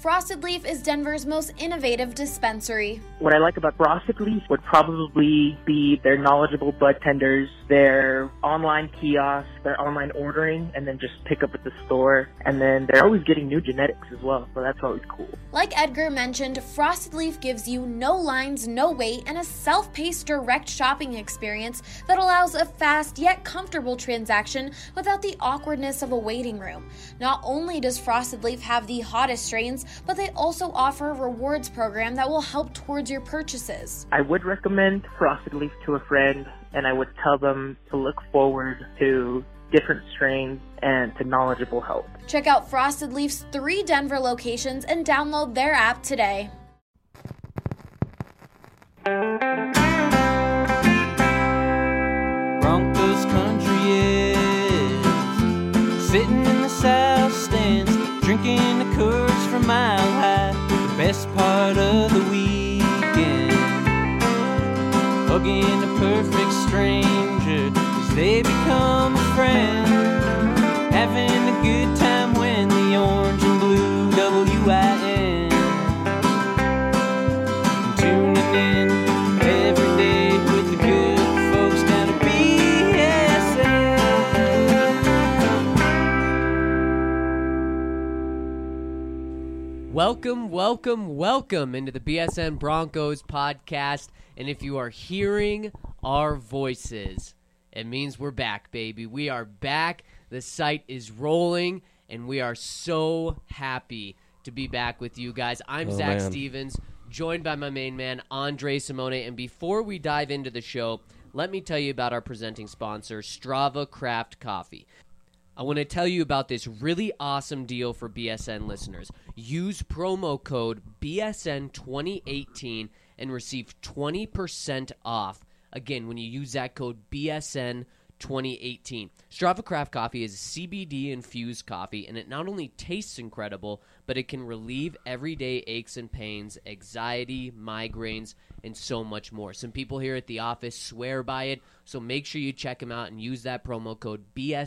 Frosted Leaf is Denver's most innovative dispensary. What I like about Frosted Leaf would probably be their knowledgeable bud tenders, their online kiosks, their online ordering, and then just pick up at the store. And then they're always getting new genetics as well, so that's always cool. Like Edgar mentioned, Frosted Leaf gives you no lines, no wait, and a self-paced direct shopping experience that allows a fast yet comfortable transaction without the awkwardness of a waiting room. Not only does Frosted Leaf have the hottest strains, but they also offer a rewards program that will help towards your purchases. I would recommend Frosted Leaf to a friend, and I would tell them to look forward to different strains and to knowledgeable help. Check out Frosted Leaf's 3 Denver locations and download their app today. Broncos country is sitting in the south stands, drinking the Coors from Mile High, the best part of the weekend. Hugging a perfect stranger as they become a friend, having a good time when the orange and blue WIN. Tuning in every day with the good folks down at BSN. Welcome into the BSN Broncos podcast. And if you are hearing our voices, it means we're back, baby. We are back. The site is rolling, and we are so happy to be back with you guys. I'm Zach Stevens, joined by my main man, Andre Simone. And before we dive into the show, let me tell you about our presenting sponsor, Strava Craft Coffee. I want to tell you about this really awesome deal for BSN listeners. Use promo code BSN2018 and receive 20% off. Again, when you use that code BSN2018. Strava Craft Coffee is a CBD-infused coffee, and it not only tastes incredible, but it can relieve everyday aches and pains, anxiety, migraines, and so much more. Some people here at the office swear by it, so make sure you check them out and use that promo code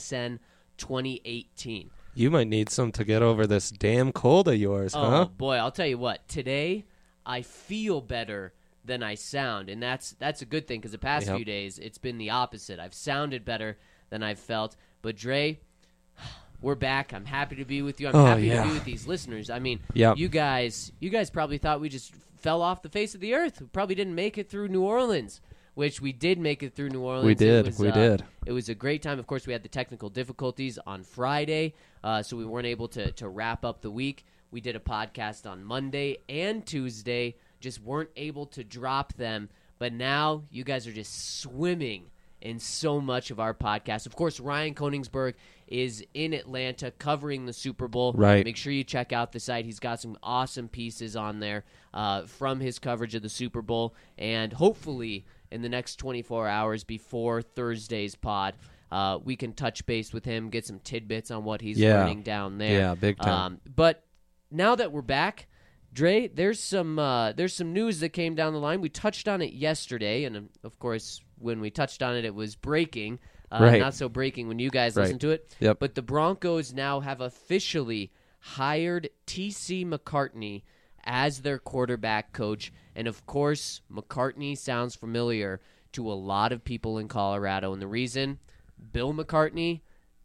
BSN2018. You might need some to get over this damn cold of yours, huh? Oh, boy, I'll tell you what. Today, I feel better than I sound, and that's a good thing because the past few days, it's been the opposite. I've sounded better than I've felt. But, Dre, we're back. I'm happy to be with you. I'm happy to be with these listeners. I mean, you guys probably thought we just fell off the face of the earth. We probably didn't make it through New Orleans, which we did make it through New Orleans. We did. It was a great time. Of course, we had the technical difficulties on Friday, so we weren't able to wrap up the week. We did a podcast on Monday and Tuesday, just weren't able to drop them. But now you guys are just swimming in so much of our podcast. Of course, Ryan Koenigsberg is in Atlanta covering the Super Bowl. Right. Make sure you check out the site. He's got some awesome pieces on there from his coverage of the Super Bowl. And hopefully in the next 24 hours before Thursday's pod, we can touch base with him, get some tidbits on what he's learning down there. Yeah, big time. But now that we're back, Dre, there's some news that came down the line. We touched on it yesterday, and of course, when we touched on it, it was breaking. Not so breaking when you guys listened to it. Yep. But the Broncos now have officially hired T.C. McCartney as their quarterback coach. And of course, McCartney sounds familiar to a lot of people in Colorado. And the reason, Bill McCartney,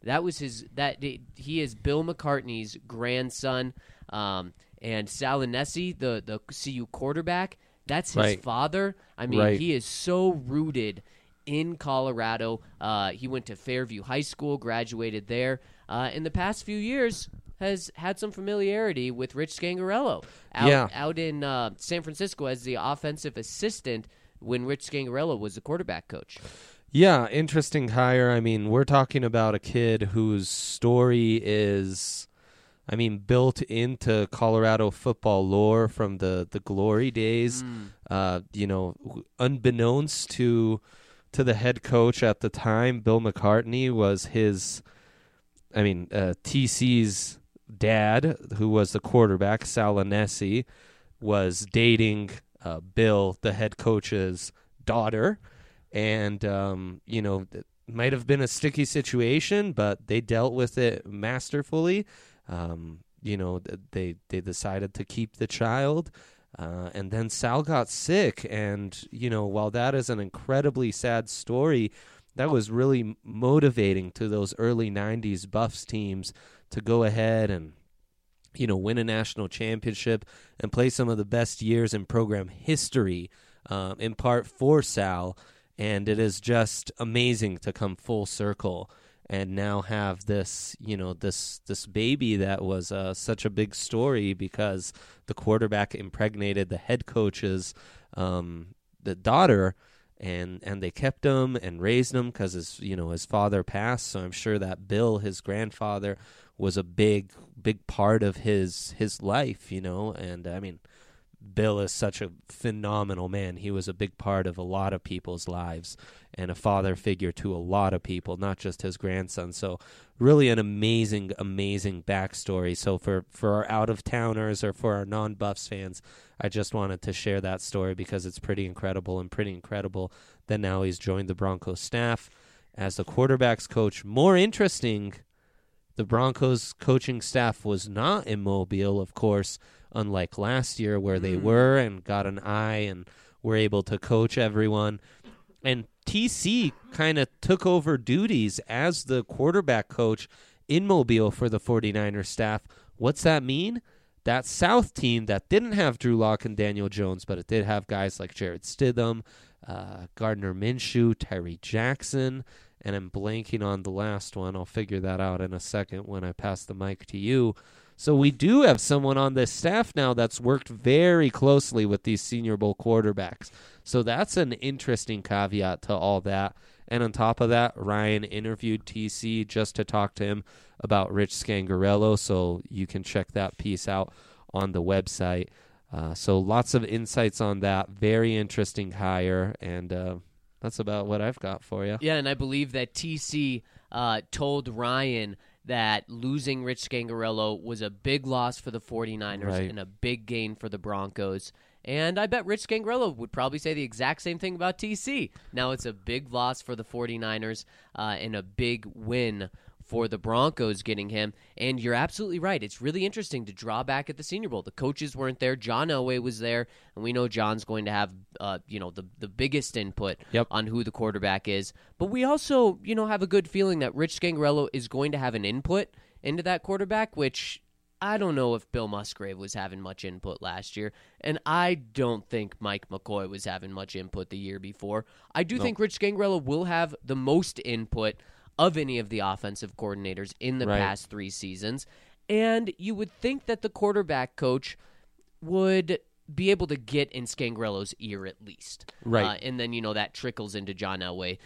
he is Bill McCartney's grandson. And Salinesi, the CU quarterback, that's his father. I mean, he is so rooted in Colorado. He went to Fairview High School, graduated there. In the past few years, has had some familiarity with Rich Scangarello out in San Francisco as the offensive assistant when Rich Scangarello was the quarterback coach. Yeah, interesting hire. I mean, we're talking about a kid whose story is, built into Colorado football lore from the glory days. Unbeknownst to the head coach at the time, Bill McCartney was TC's dad, who was the quarterback, Salinesi, was dating Bill, the head coach's daughter. And, it might have been a sticky situation, but they dealt with it masterfully. they decided to keep the child. And then Sal got sick. And, while that is an incredibly sad story, that was really motivating to those early 90s Buffs teams to go ahead and, win a national championship and play some of the best years in program history, in part for Sal. And it is just amazing to come full circle and now have this, this baby that was such a big story because the quarterback impregnated the head coach's the daughter, and they kept him and raised him because his father passed. So I'm sure that Bill, his grandfather, was a big part of his life, and I mean, Bill is such a phenomenal man. He was a big part of a lot of people's lives and a father figure to a lot of people, not just his grandson. So really an amazing, amazing backstory. So for our out-of-towners or for our non-Buffs fans, I just wanted to share that story because it's pretty incredible that now he's joined the Broncos staff as the quarterback's coach. More interesting, the Broncos coaching staff was not in Mobile, of course, unlike last year where they were and got an eye and were able to coach everyone. And TC kind of took over duties as the quarterback coach in Mobile for the 49ers staff. What's that mean? That South team that didn't have Drew Lock and Daniel Jones, but it did have guys like Jared Stidham, Gardner Minshew, Tyree Jackson, and I'm blanking on the last one. I'll figure that out in a second when I pass the mic to you. So we do have someone on this staff now that's worked very closely with these Senior Bowl quarterbacks. So that's an interesting caveat to all that. And on top of that, Ryan interviewed TC just to talk to him about Rich Scangarello. So you can check that piece out on the website. So lots of insights on that. Very interesting hire. And that's about what I've got for you. Yeah, and I believe that TC told Ryan that losing Rich Scangarello was a big loss for the 49ers and a big gain for the Broncos. And I bet Rich Scangarello would probably say the exact same thing about TC. Now it's a big loss for the 49ers and a big win for the Broncos getting him. And you're absolutely right. It's really interesting to draw back at the Senior Bowl. The coaches weren't there. John Elway was there, and we know John's going to have the biggest input on who the quarterback is. But we also have a good feeling that Rich Scangarello is going to have an input into that quarterback, which I don't know if Bill Musgrave was having much input last year, and I don't think Mike McCoy was having much input the year before. I do think Rich Scangarello will have the most input of any of the offensive coordinators in the past 3 seasons. And you would think that the quarterback coach would be able to get in Scangarello's ear at least. Right. And then, that trickles into John Elway.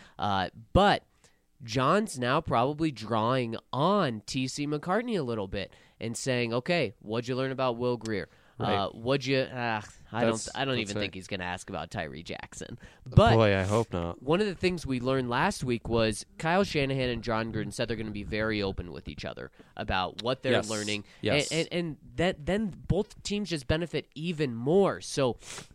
But John's now probably drawing on T.C. McCartney a little bit and saying, okay, what'd you learn about Will Grier? What'd you? I don't even think he's going to ask about Tyree Jackson. But boy, I hope not. One of the things we learned last week was Kyle Shanahan and John Gruden said they're going to be very open with each other about what they're learning, and that then both teams just benefit even more. So,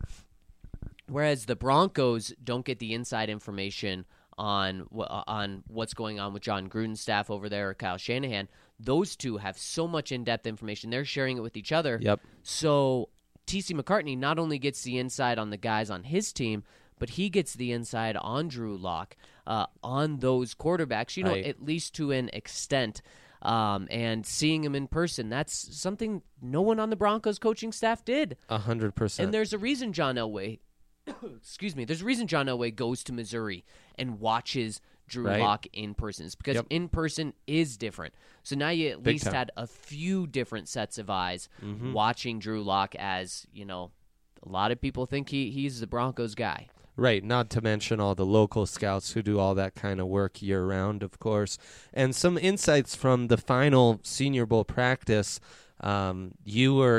whereas the Broncos don't get the inside information on what's going on with John Gruden's staff over there or Kyle Shanahan, those two have so much in-depth information. They're sharing it with each other. Yep. So T.C. McCartney not only gets the inside on the guys on his team, but he gets the inside on Drew Lock, on those quarterbacks, at least to an extent. And seeing him in person, that's something no one on the Broncos coaching staff did. 100%. And there's a reason John Elway there's a reason John Elway goes to Missouri and watches Drew Lock in person. It's because in person is different. So now you at least had a few different sets of eyes watching Drew Lock as, a lot of people think he's the Broncos guy. Right, not to mention all the local scouts who do all that kind of work year-round, of course. And some insights from the final Senior Bowl practice. You were,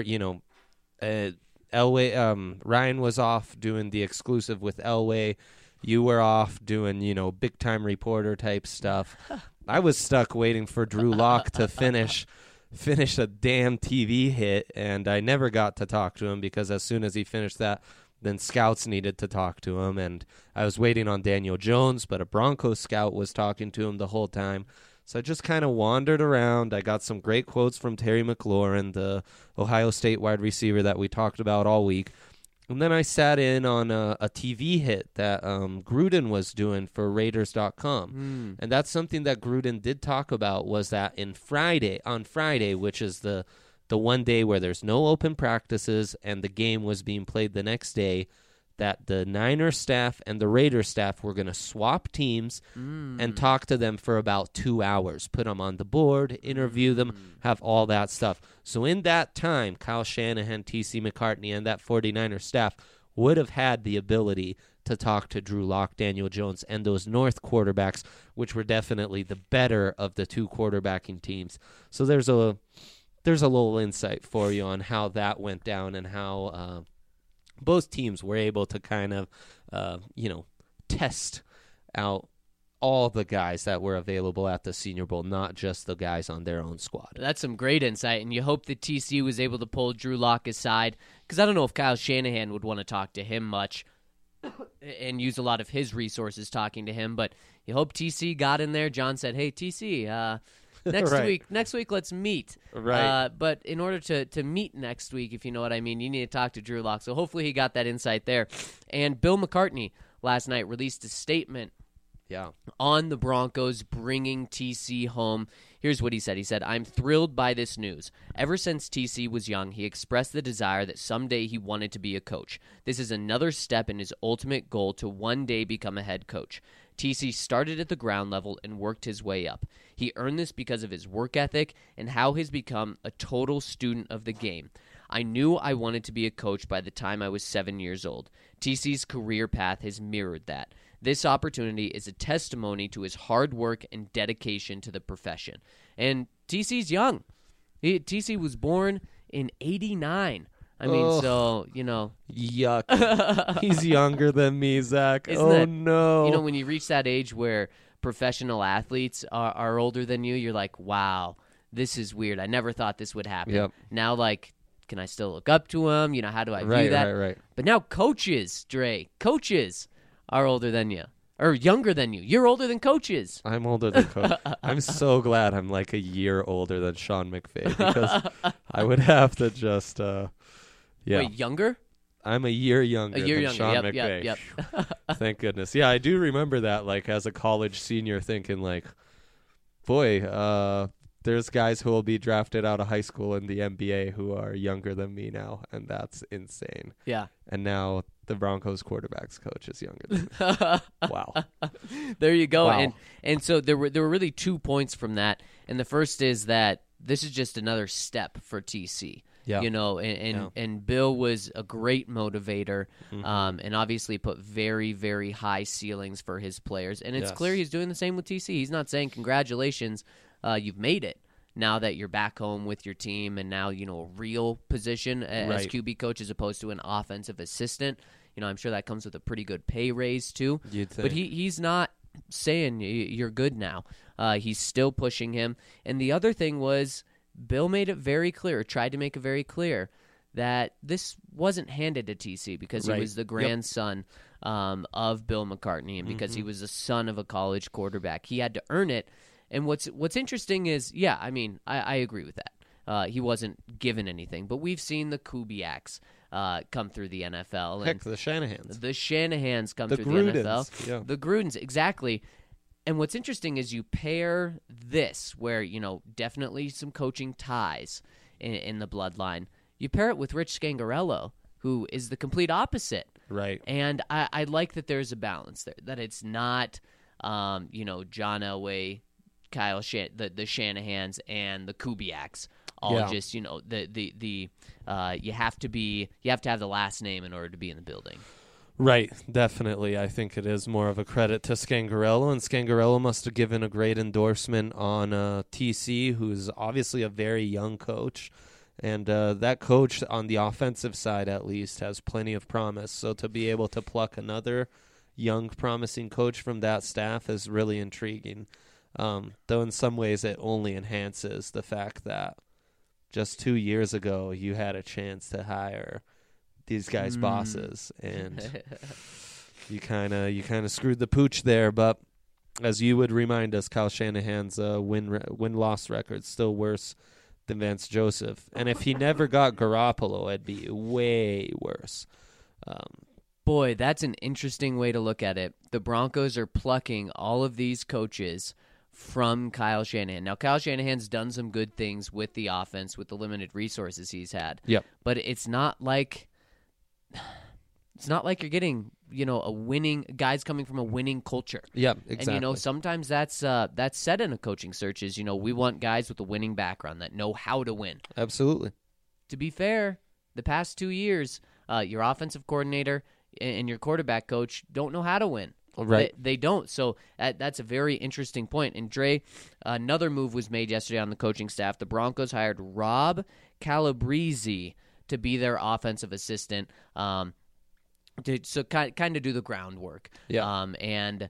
Elway, Ryan was off doing the exclusive with Elway. You were off doing, big-time reporter type stuff. I was stuck waiting for Drew Lock to finish a damn TV hit, and I never got to talk to him because as soon as he finished that, then scouts needed to talk to him, and I was waiting on Daniel Jones, but a Broncos scout was talking to him the whole time. So I just kind of wandered around. I got some great quotes from Terry McLaurin, the Ohio State wide receiver that we talked about all week. And then I sat in on a TV hit that Gruden was doing for Raiders.com. And that's something that Gruden did talk about, was that on Friday, which is the one day where there's no open practices and the game was being played the next day, that the Niners staff and the Raiders staff were going to swap teams and talk to them for about 2 hours, put them on the board, interview them, have all that stuff. So in that time, Kyle Shanahan, T.C. McCartney, and that 49er staff would have had the ability to talk to Drew Lock, Daniel Jones, and those North quarterbacks, which were definitely the better of the two quarterbacking teams. So there's a little insight for you on how that went down and how both teams were able to kind of, test out all the guys that were available at the Senior Bowl, not just the guys on their own squad. That's some great insight, and you hope that TC was able to pull Drew Lock aside, because I don't know if Kyle Shanahan would want to talk to him much and use a lot of his resources talking to him, but you hope TC got in there. John said, hey, TC, Next week, let's meet. Right. But in order to meet next week, if you know what I mean, you need to talk to Drew Lock. So hopefully he got that insight there. And Bill McCartney last night released a statement on the Broncos bringing TC home. Here's what he said. He said, I'm thrilled by this news. Ever since TC was young, he expressed the desire that someday he wanted to be a coach. This is another step in his ultimate goal to one day become a head coach. TC started at the ground level and worked his way up. He earned this because of his work ethic and how he's become a total student of the game. I knew I wanted to be a coach by the time I was 7 years old. TC's career path has mirrored that. This opportunity is a testimony to his hard work and dedication to the profession. And TC's young. TC was born in 89. I mean, so, Yuck. He's younger than me, Zach. No. When you reach that age where professional athletes are older than you, you're like, wow, this is weird. I never thought this would happen. Yep. Now, can I still look up to him? How do I view that? Right. But now coaches are older than you. Or younger than you. You're older than coaches. I'm older than coach. I'm so glad I'm like a year older than Sean McVay, because I would have to just... Wait, younger? I'm a year younger than Sean McVay. Yep. Thank goodness. Yeah, I do remember that, as a college senior, thinking, boy, there's guys who will be drafted out of high school in the NBA who are younger than me now, and that's insane. Yeah. And now the Broncos quarterback's coach is younger than me. Wow. There you go. Wow. And so there were really 2 points from that. And the first is that this is just another step for TC. Yeah. And Bill was a great motivator, and obviously put very, very high ceilings for his players. And it's clear he's doing the same with TC. He's not saying, congratulations, you've made it. Now that you're back home with your team and now, a real position as QB coach as opposed to an offensive assistant. I'm sure that comes with a pretty good pay raise too. You'd think. But he's not saying you're good now. He's still pushing him. And the other thing was, Bill made it very clear, tried to make it very clear, that this wasn't handed to TC because he was the grandson of Bill McCartney and because he was the son of a college quarterback. He had to earn it. And what's interesting is, I agree with that. He wasn't given anything. But we've seen the Kubiaks come through the NFL. Heck, the Shanahans. The Shanahans come through Grudens. the NFL. Yeah. The Grudens, exactly. And what's interesting is you pair this, where, definitely some coaching ties in the bloodline. You pair it with Rich Scangarello, who is the complete opposite. Right. And I like that there's a balance there, that it's not, John Elway, Kyle the Shanahans, and the Kubiaks. All just, you have to have the last name in order to be in the building. Right, definitely. I think it is more of a credit to Scangarello, and Scangarello must have given a great endorsement on TC, who's obviously a very young coach, and that coach on the offensive side, at least, has plenty of promise. So to be able to pluck another young, promising coach from that staff is really intriguing, though in some ways it only enhances the fact that just 2 years ago you had a chance to hire these guys' bosses, and you kind of screwed the pooch there. But as you would remind us, Kyle Shanahan's win-loss record still worse than Vance Joseph. And if he never got Garoppolo, it'd be way worse. Boy, that's an interesting way to look at it. The Broncos are plucking all of these coaches from Kyle Shanahan. Now, Kyle Shanahan's done some good things with the offense, with the limited resources he's had. Yep. But it's not like you're getting, a winning guys coming from a winning culture. Yeah, exactly. And sometimes that's said in a coaching search is, we want guys with a winning background that know how to win. Absolutely. To be fair, the past 2 years, your offensive coordinator and your quarterback coach don't know how to win. Right. They don't. So that's a very interesting point. And Dre, another move was made yesterday on the coaching staff. The Broncos hired Rob Calabrese to be their offensive assistant, to kind of do the groundwork. Yeah. And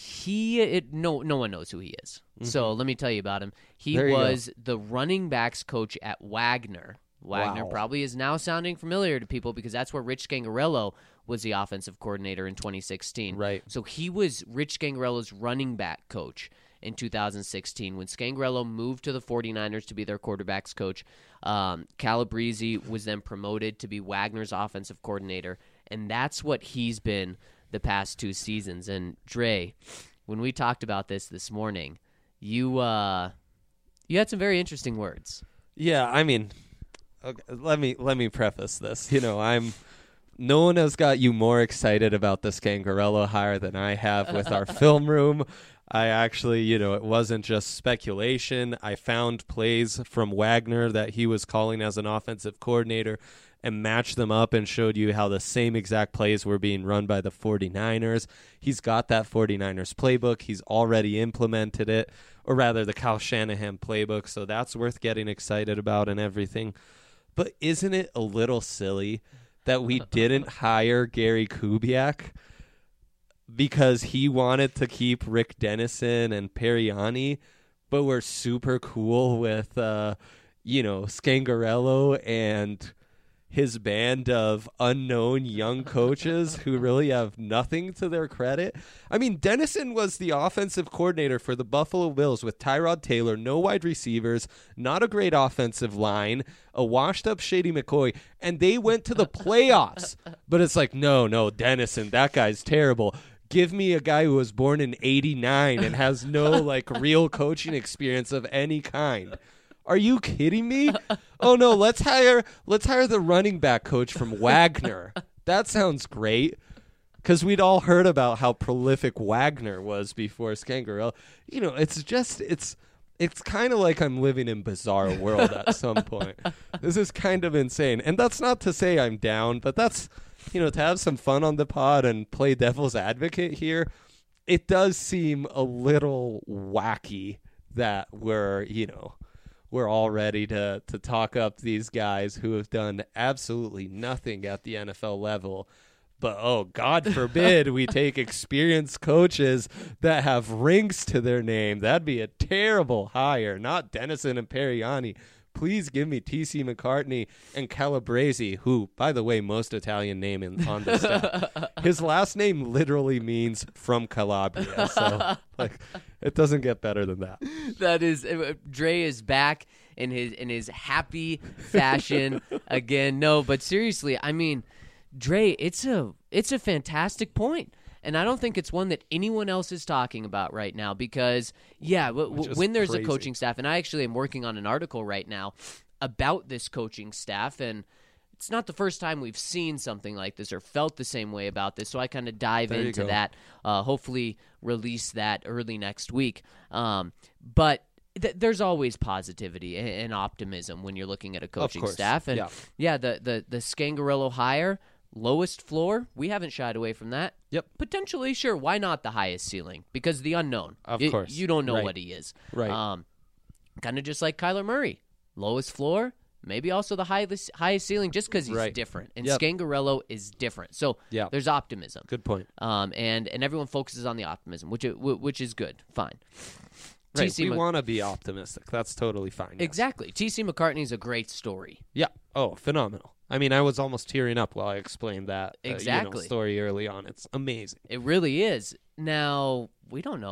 no one knows who he is. Mm-hmm. So let me tell you about him. He was the running backs coach at Wagner. Wagner probably is now sounding familiar to people because that's where Rich Scangarello was the offensive coordinator in 2016. Right. So he was Rich Scangarello's running back coach in 2016. When Scangarello moved to the 49ers to be their quarterbacks coach, Calabrese was then promoted to be Wagner's offensive coordinator, and that's what he's been the past 2 seasons. And Dre, when we talked about this morning, you had some very interesting words. Yeah, I mean, okay, let me preface this. No one has got you more excited about the Scangarello hire than I have with our film room. I actually, it wasn't just speculation. I found plays from Wagner that he was calling as an offensive coordinator and matched them up and showed you how the same exact plays were being run by the 49ers. He's got that 49ers playbook. He's already implemented it, or rather the Kyle Shanahan playbook, so that's worth getting excited about and everything. But isn't it a little silly that we didn't hire Gary Kubiak because he wanted to keep Rick Dennison and Periani, but we're super cool with, Scangarello and his band of unknown young coaches who really have nothing to their credit? I mean, Dennison was the offensive coordinator for the Buffalo Bills with Tyrod Taylor, no wide receivers, not a great offensive line, a washed-up Shady McCoy, and they went to the playoffs. But it's like, no, Dennison, that guy's terrible. Give me a guy who was born in 89 and has no, real coaching experience of any kind. Are you kidding me? Oh no, let's hire the running back coach from Wagner. That sounds great. Because we'd all heard about how prolific Wagner was before Scangarello. It's kind of like I'm living in bizarre world at some point. This is kind of insane. And that's not to say I'm down, but that's, to have some fun on the pod and play devil's advocate here. It does seem a little wacky that we're all ready to talk up these guys who have done absolutely nothing at the NFL level. But, oh, God forbid we take experienced coaches that have rings to their name. That'd be a terrible hire, not Dennison and Periani. Please give me T.C. McCartney and Calabrese, who, by the way, most Italian name on this staff. His last name literally means from Calabria. So, it doesn't get better than that. That is, Dre is back in his happy fashion again. No, but seriously, I mean, Dre, it's a fantastic point. And I don't think it's one that anyone else is talking about right now because, when there's crazy. A coaching staff, and I actually am working on an article right now about this coaching staff, and it's not the first time we've seen something like this or felt the same way about this, so I kind of dive into that, hopefully release that early next week. But there's always positivity and optimism when you're looking at a coaching staff. And, the Scangarello hire, lowest floor, we haven't shied away from that. Yep. Potentially, sure. Why not the highest ceiling? Because the unknown. Of course. You don't know what he is. Right. Kind of just like Kyler Murray. Lowest floor, maybe also the highest ceiling just because he's different. And Scangarello is different. So there's optimism. Good point. And everyone focuses on the optimism, which is good. Fine. Right. We want to be optimistic. That's totally fine. Yes. Exactly. T.C. McCartney's a great story. Yeah. Oh, phenomenal. I mean, I was almost tearing up while I explained that exactly story early on. It's amazing. It really is. Now, we don't know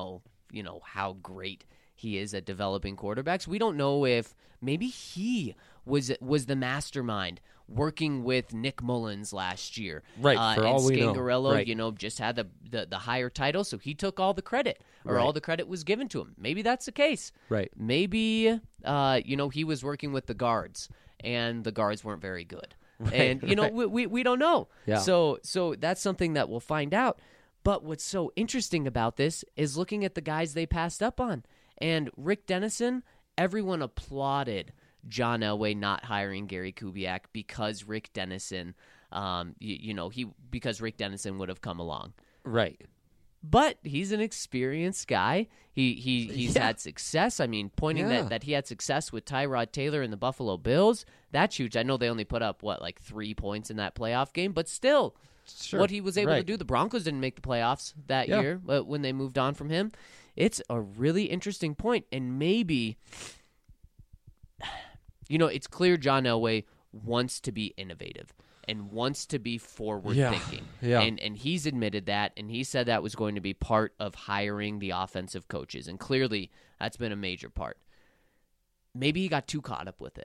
how great he is at developing quarterbacks. We don't know if maybe he was the mastermind working with Nick Mullins last year. Right, for and all we know. Scangarello, Right. just had the higher title, so he took all the credit, or Right. all the credit was given to him. Maybe that's the case. Right. Maybe, he was working with the guards, and the guards weren't very good. And, right. we don't know. Yeah. So that's something that we'll find out. But what's so interesting about this is looking at the guys they passed up on. And Rick Dennison, everyone applauded John Elway not hiring Gary Kubiak because Rick Dennison, because Rick Dennison would have come along. Right. But he's an experienced guy. He's had success. I mean, pointing Yeah. that he had success with Tyrod Taylor and the Buffalo Bills, that's huge. I know they only put up, 3 points in that playoff game, but still, Sure. what he was able to Right. do. The Broncos didn't make the playoffs that Yeah. year when they moved on from him. It's a really interesting point, and maybe, it's clear John Elway wants to be innovative and wants to be forward-thinking. Yeah. And he's admitted that, and he said that was going to be part of hiring the offensive coaches, and clearly that's been a major part. Maybe he got too caught up with it.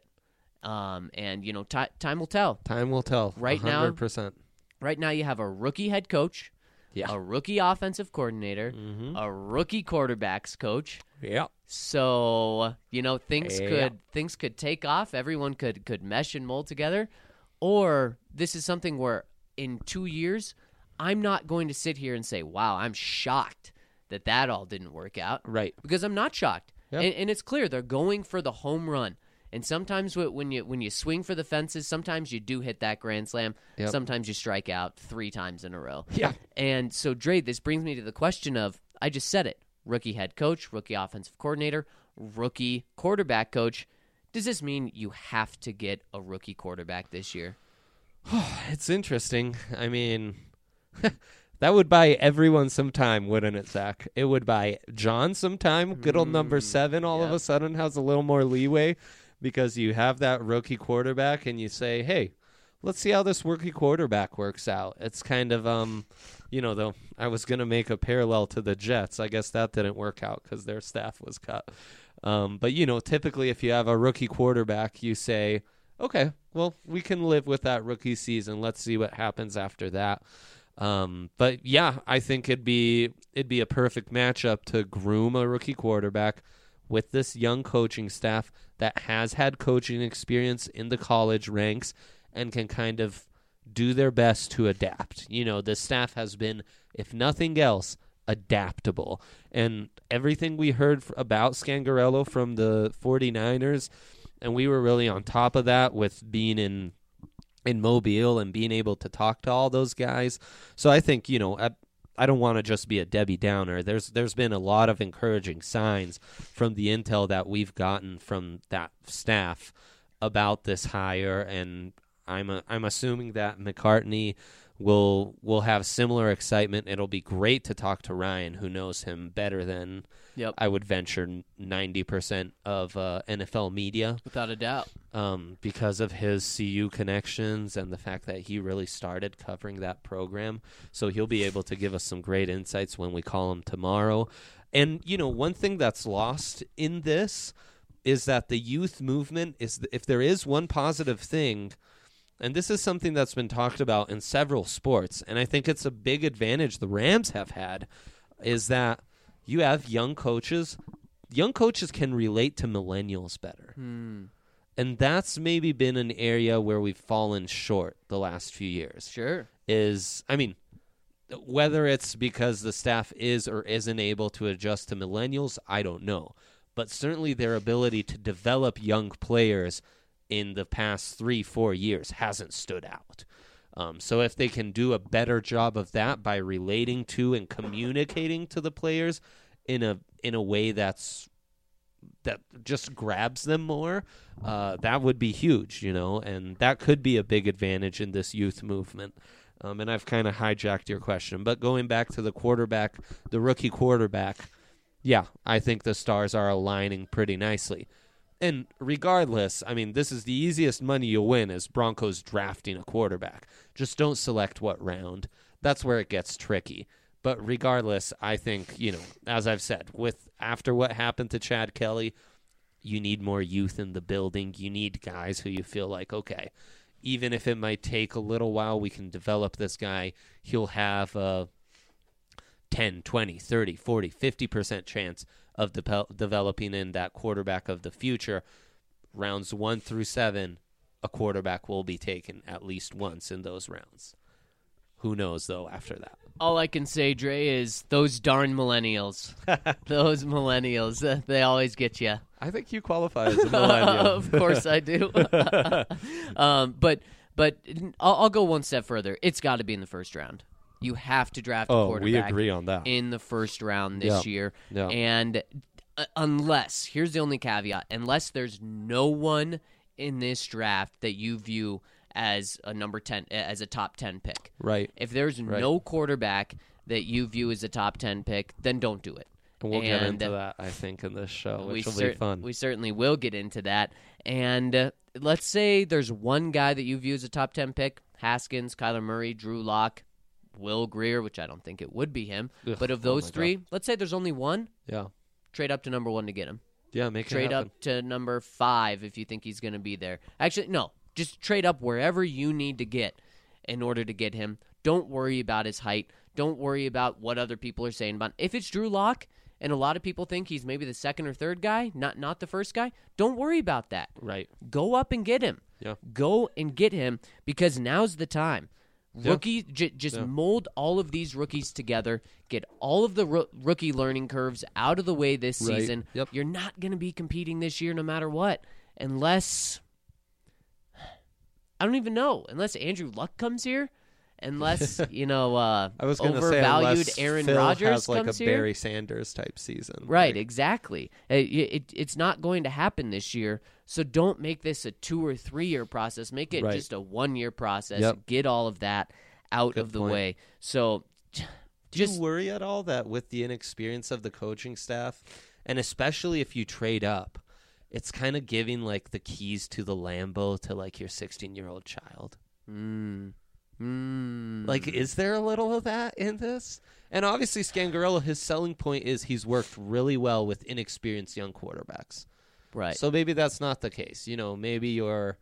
Time will tell. Time will tell. Right now- 100%. Right now you have a rookie head coach, Yeah. a rookie offensive coordinator, a rookie quarterbacks coach. Yeah. So, things Yeah. could take off. Everyone could mesh and mold together. Or this is something where in 2 years, I'm not going to sit here and say, wow, I'm shocked that all didn't work out. Right. Because I'm not shocked. Yep. And it's clear they're going for the home run. And sometimes when you swing for the fences, sometimes you do hit that grand slam. Yep. Sometimes you strike out 3 times in a row. Yeah. And so, Dre, this brings me to the question of, I just said it, rookie head coach, rookie offensive coordinator, rookie quarterback coach. Does this mean you have to get a rookie quarterback this year? It's interesting. I mean, that would buy everyone some time, wouldn't it, Zach? It would buy John some time. Good old number 7 all of yeah. a sudden has a little more leeway because you have that rookie quarterback and you say, hey, let's see how this rookie quarterback works out. It's kind of, though, I was going to make a parallel to the Jets. I guess that didn't work out because their staff was cut. But, typically if you have a rookie quarterback, you say, okay, well, we can live with that rookie season. Let's see what happens after that. But yeah, I think it'd be a perfect matchup to groom a rookie quarterback with this young coaching staff that has had coaching experience in the college ranks and can kind of do their best to adapt. The staff has been, if nothing else, adaptable. And everything we heard about Scangarello from the 49ers, and we were really on top of that with being in Mobile and being able to talk to all those guys. So I think, I don't want to just be a Debbie Downer. There's been a lot of encouraging signs from the intel that we've gotten from that staff about this hire, and I'm assuming that McCartney will have similar excitement. It'll be great to talk to Ryan, who knows him better than I would venture 90% of NFL media. Without a doubt. Because of his CU connections and the fact that he really started covering that program. So he'll be able to give us some great insights when we call him tomorrow. And, one thing that's lost in this is that the youth movement is, if there is one positive thing, and this is something that's been talked about in several sports, and I think it's a big advantage the Rams have had, is that you have young coaches. Young coaches can relate to millennials better. And that's maybe been an area where we've fallen short the last few years. Sure. Whether it's because the staff is or isn't able to adjust to millennials, I don't know. But certainly their ability to develop young players in the past 3-4 years hasn't stood out. So if they can do a better job of that by relating to and communicating to the players in a way that just grabs them more, that would be huge, and that could be a big advantage in this youth movement. And I've kind of hijacked your question, but going back to the rookie quarterback, yeah, I think the stars are aligning pretty nicely. And regardless, this is the easiest money you'll win is Broncos drafting a quarterback. Just don't select what round. That's where it gets tricky. But regardless, I think, as I've said, after what happened to Chad Kelly, you need more youth in the building. You need guys who you feel like, okay, even if it might take a little while, we can develop this guy. He'll have a 10, 20, 30, 40, 50% chance of developing in that quarterback of the future. Rounds 1 through 7, a quarterback will be taken at least once in those rounds. Who knows, though, after that? All I can say, Dre, is those darn millennials. Those millennials, they always get you. I think you qualify as a millennial. Of course I do. But I'll go one step further. It's got to be in the first round. You have to draft a quarterback. We agree on that. In the first round this year. Yeah. And here's the only caveat, unless there's no one in this draft that you view as a number 10, as a top 10 pick. Right. If there's no quarterback that you view as a top 10 pick, then don't do it. And we'll get into that, I think, in this show, which will be fun. We certainly will get into that. And let's say there's one guy that you view as a top 10 pick: Haskins, Kyler Murray, Drew Lock, Will Grier, which I don't think it would be him. But of those three, let's say there's only one. Yeah. Trade up to number 1 to get him. Yeah, make it Trade happen. up to number 5 if you think he's going to be there. Actually, no. Just trade up wherever you need to get in order to get him. Don't worry about his height. Don't worry about what other people are saying about him. If it's Drew Lock, and a lot of people think he's maybe the second or third guy, not the first guy, don't worry about that. Right. Go up and get him. Yeah. Go and get him, because now's the time. Rookie, just mold all of these rookies together. Get all of the rookie learning curves out of the way this season. Yep. You're not going to be competing this year no matter what, unless... I don't even know. Unless Andrew Luck comes here, unless I was going to say overvalued Aaron Phil Rodgers has like comes a here. Barry Sanders type season. Right, Like, exactly. It's not going to happen this year, so don't make this a 2 or 3 year process. Make it just a 1 year process. Yep. Get all of that out of the way. So, do just you worry at all that with the inexperience of the coaching staff, and especially if you trade up, it's kind of giving like the keys to the Lambo to like your 16-year-old child? Like, is there a little of that in this? And obviously Scangarello, his selling point is he's worked really well with inexperienced young quarterbacks. right. So maybe that's not the case. Maybe your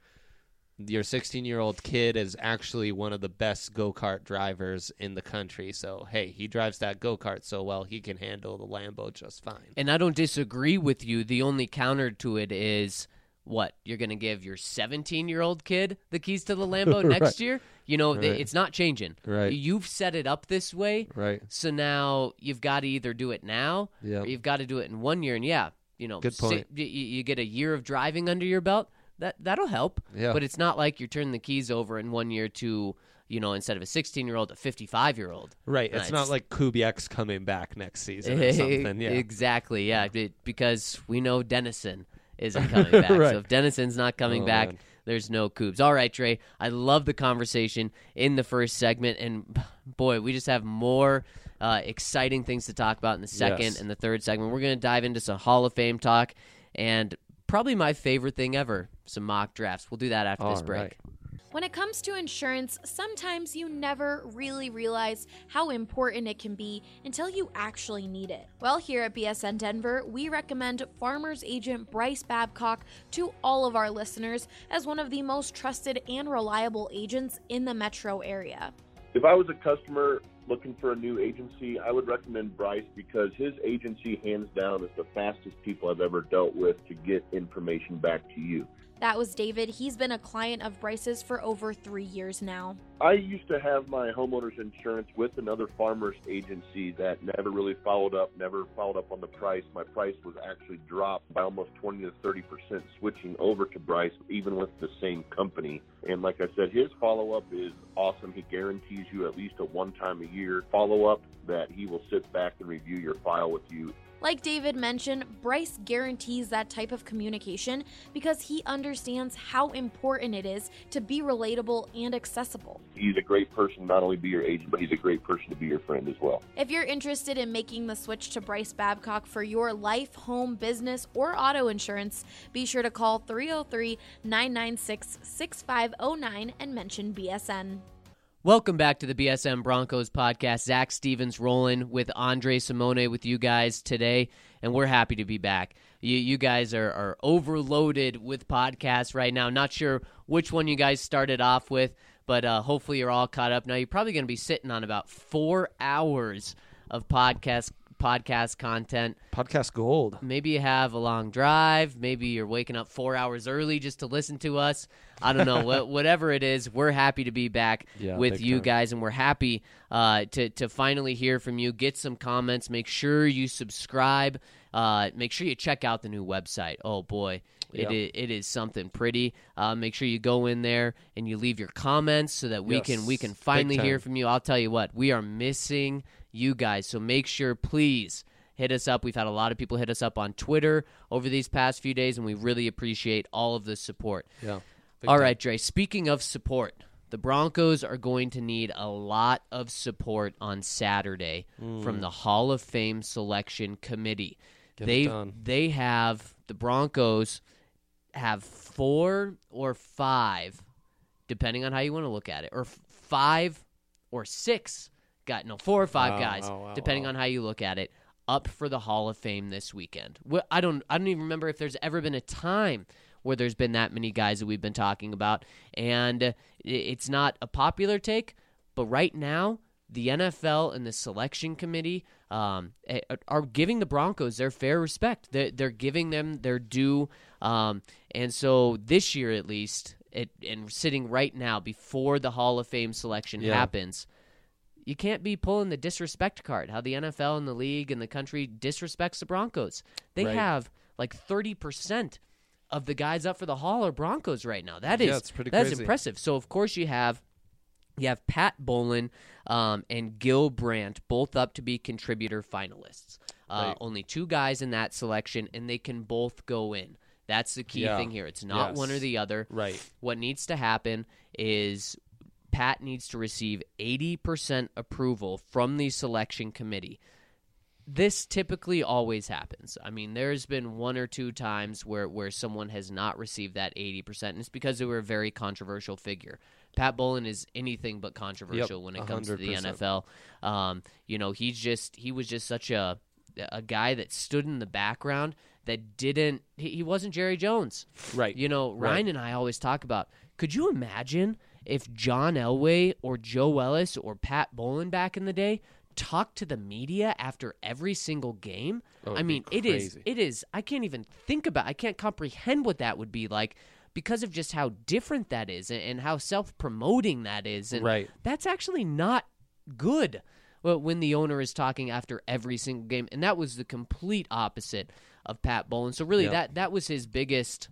16-year-old kid is actually one of the best go-kart drivers in the country. So, hey, he drives that go-kart so well, he can handle the Lambo just fine. And I don't disagree with you. The only counter to it is, what, you're going to give your 17-year-old kid the keys to the Lambo next year? It's not changing. Right. You've set it up this way. Right. So now you've got to either do it now Yep. or you've got to do it in 1 year. And Good point. You get a year of driving under your belt. That'll help. Yeah. But it's not like you're turning the keys over in 1 year to, instead of a 16-year-old, a 55-year-old. Right. It's not like Kubiak's coming back next season or something. Yeah. Exactly, yeah. Because we know Dennison isn't coming back. Right. So if Dennison's not coming back, man. there's no Coubs. All right, Trey, I love the conversation in the first segment. And, boy, we just have more exciting things to talk about in the second and the third segment. We're going to dive into some Hall of Fame talk and probably my favorite thing ever, some mock drafts. We'll do that after this break. Right. When it comes to insurance, sometimes you never really realize how important it can be until you actually need it. Well, here at BSN Denver, we recommend Farmers Agent Bryce Babcock to all of our listeners as one of the most trusted and reliable agents in the metro area. If I was a customer looking for a new agency, I would recommend Bryce because his agency, hands down, is the fastest people I've ever dealt with to get information back to you. That was David. He's been a client of Bryce's for over 3 years now. I used to have my homeowner's insurance with another farmer's agency that never really followed up on the price. My price was actually dropped by almost 20 to 30% switching over to Bryce, even with the same company. And like I said, his follow-up is awesome. He guarantees you at least a one-time-a-year follow-up that he will sit back and review your file with you. Like David mentioned, Bryce guarantees that type of communication because he understands how important it is to be relatable and accessible. He's a great person, not only to be your agent, but he's a great person to be your friend as well. If you're interested in making the switch to Bryce Babcock for your life, home, business, or auto insurance, be sure to call 303-996-6509 and mention BSN. Welcome back to the BSM Broncos podcast. Zach Stevens rolling with Andre Simone with you guys today, and we're happy to be back. You guys are overloaded with podcasts right now. Not sure which one you guys started off with, but hopefully you're all caught up. Now, you're probably going to be sitting on about 4 hours of podcast content. Podcast gold. Maybe you have a long drive. Maybe you're waking up 4 hours early just to listen to us. I don't know. Whatever it is, we're happy to be back with you guys, and we're happy to finally hear from you. Get some comments. Make sure you subscribe. Make sure you check out the new website. Oh, boy. It is something pretty. Make sure you go in there and you leave your comments so that we can finally hear from you. I'll tell you what, we are missing you guys. So make sure, please, hit us up. We've had a lot of people hit us up on Twitter over these past few days, and we really appreciate all of the support. Yeah. All right, Dre, speaking of support, the Broncos are going to need a lot of support on Saturday from the Hall of Fame Selection Committee. The Broncos have 4 or 5, depending on how you want to look at it, or 5 or 6 4 or 5 guys, depending on how you look at it, up for the Hall of Fame this weekend. I don't even remember if there's ever been a time where there's been that many guys that we've been talking about, and it's not a popular take, but right now the NFL and the selection committee are giving the Broncos their fair respect. They're giving them their due, and so this year at least, and sitting right now before the Hall of Fame selection happens, you can't be pulling the disrespect card, how the NFL and the league and the country disrespects the Broncos. They have like 30% of the guys up for the Hall are Broncos right now. That's crazy. Impressive. So, of course, you have Pat Bowlen and Gil Brandt both up to be contributor finalists. Only 2 guys in that selection, and they can both go in. That's the key thing here. It's not one or the other. Right. What needs to happen is Pat needs to receive 80% approval from the selection committee. This typically always happens. I mean, there's been 1 or 2 times where someone has not received that 80%, and it's because they were a very controversial figure. Pat Bowlen is anything but controversial when it comes 100%. To the NFL. He was just such a guy that stood in the background that he wasn't Jerry Jones. Right. Ryan and I always talk about, could you imagine if John Elway or Joe Ellis or Pat Bowlen back in the day talked to the media after every single game? I mean, it is, I can't even I can't comprehend what that would be like because of just how different that is and how self-promoting that is. And that's actually not good when the owner is talking after every single game. And that was the complete opposite of Pat Bowlen. So really that was his biggest,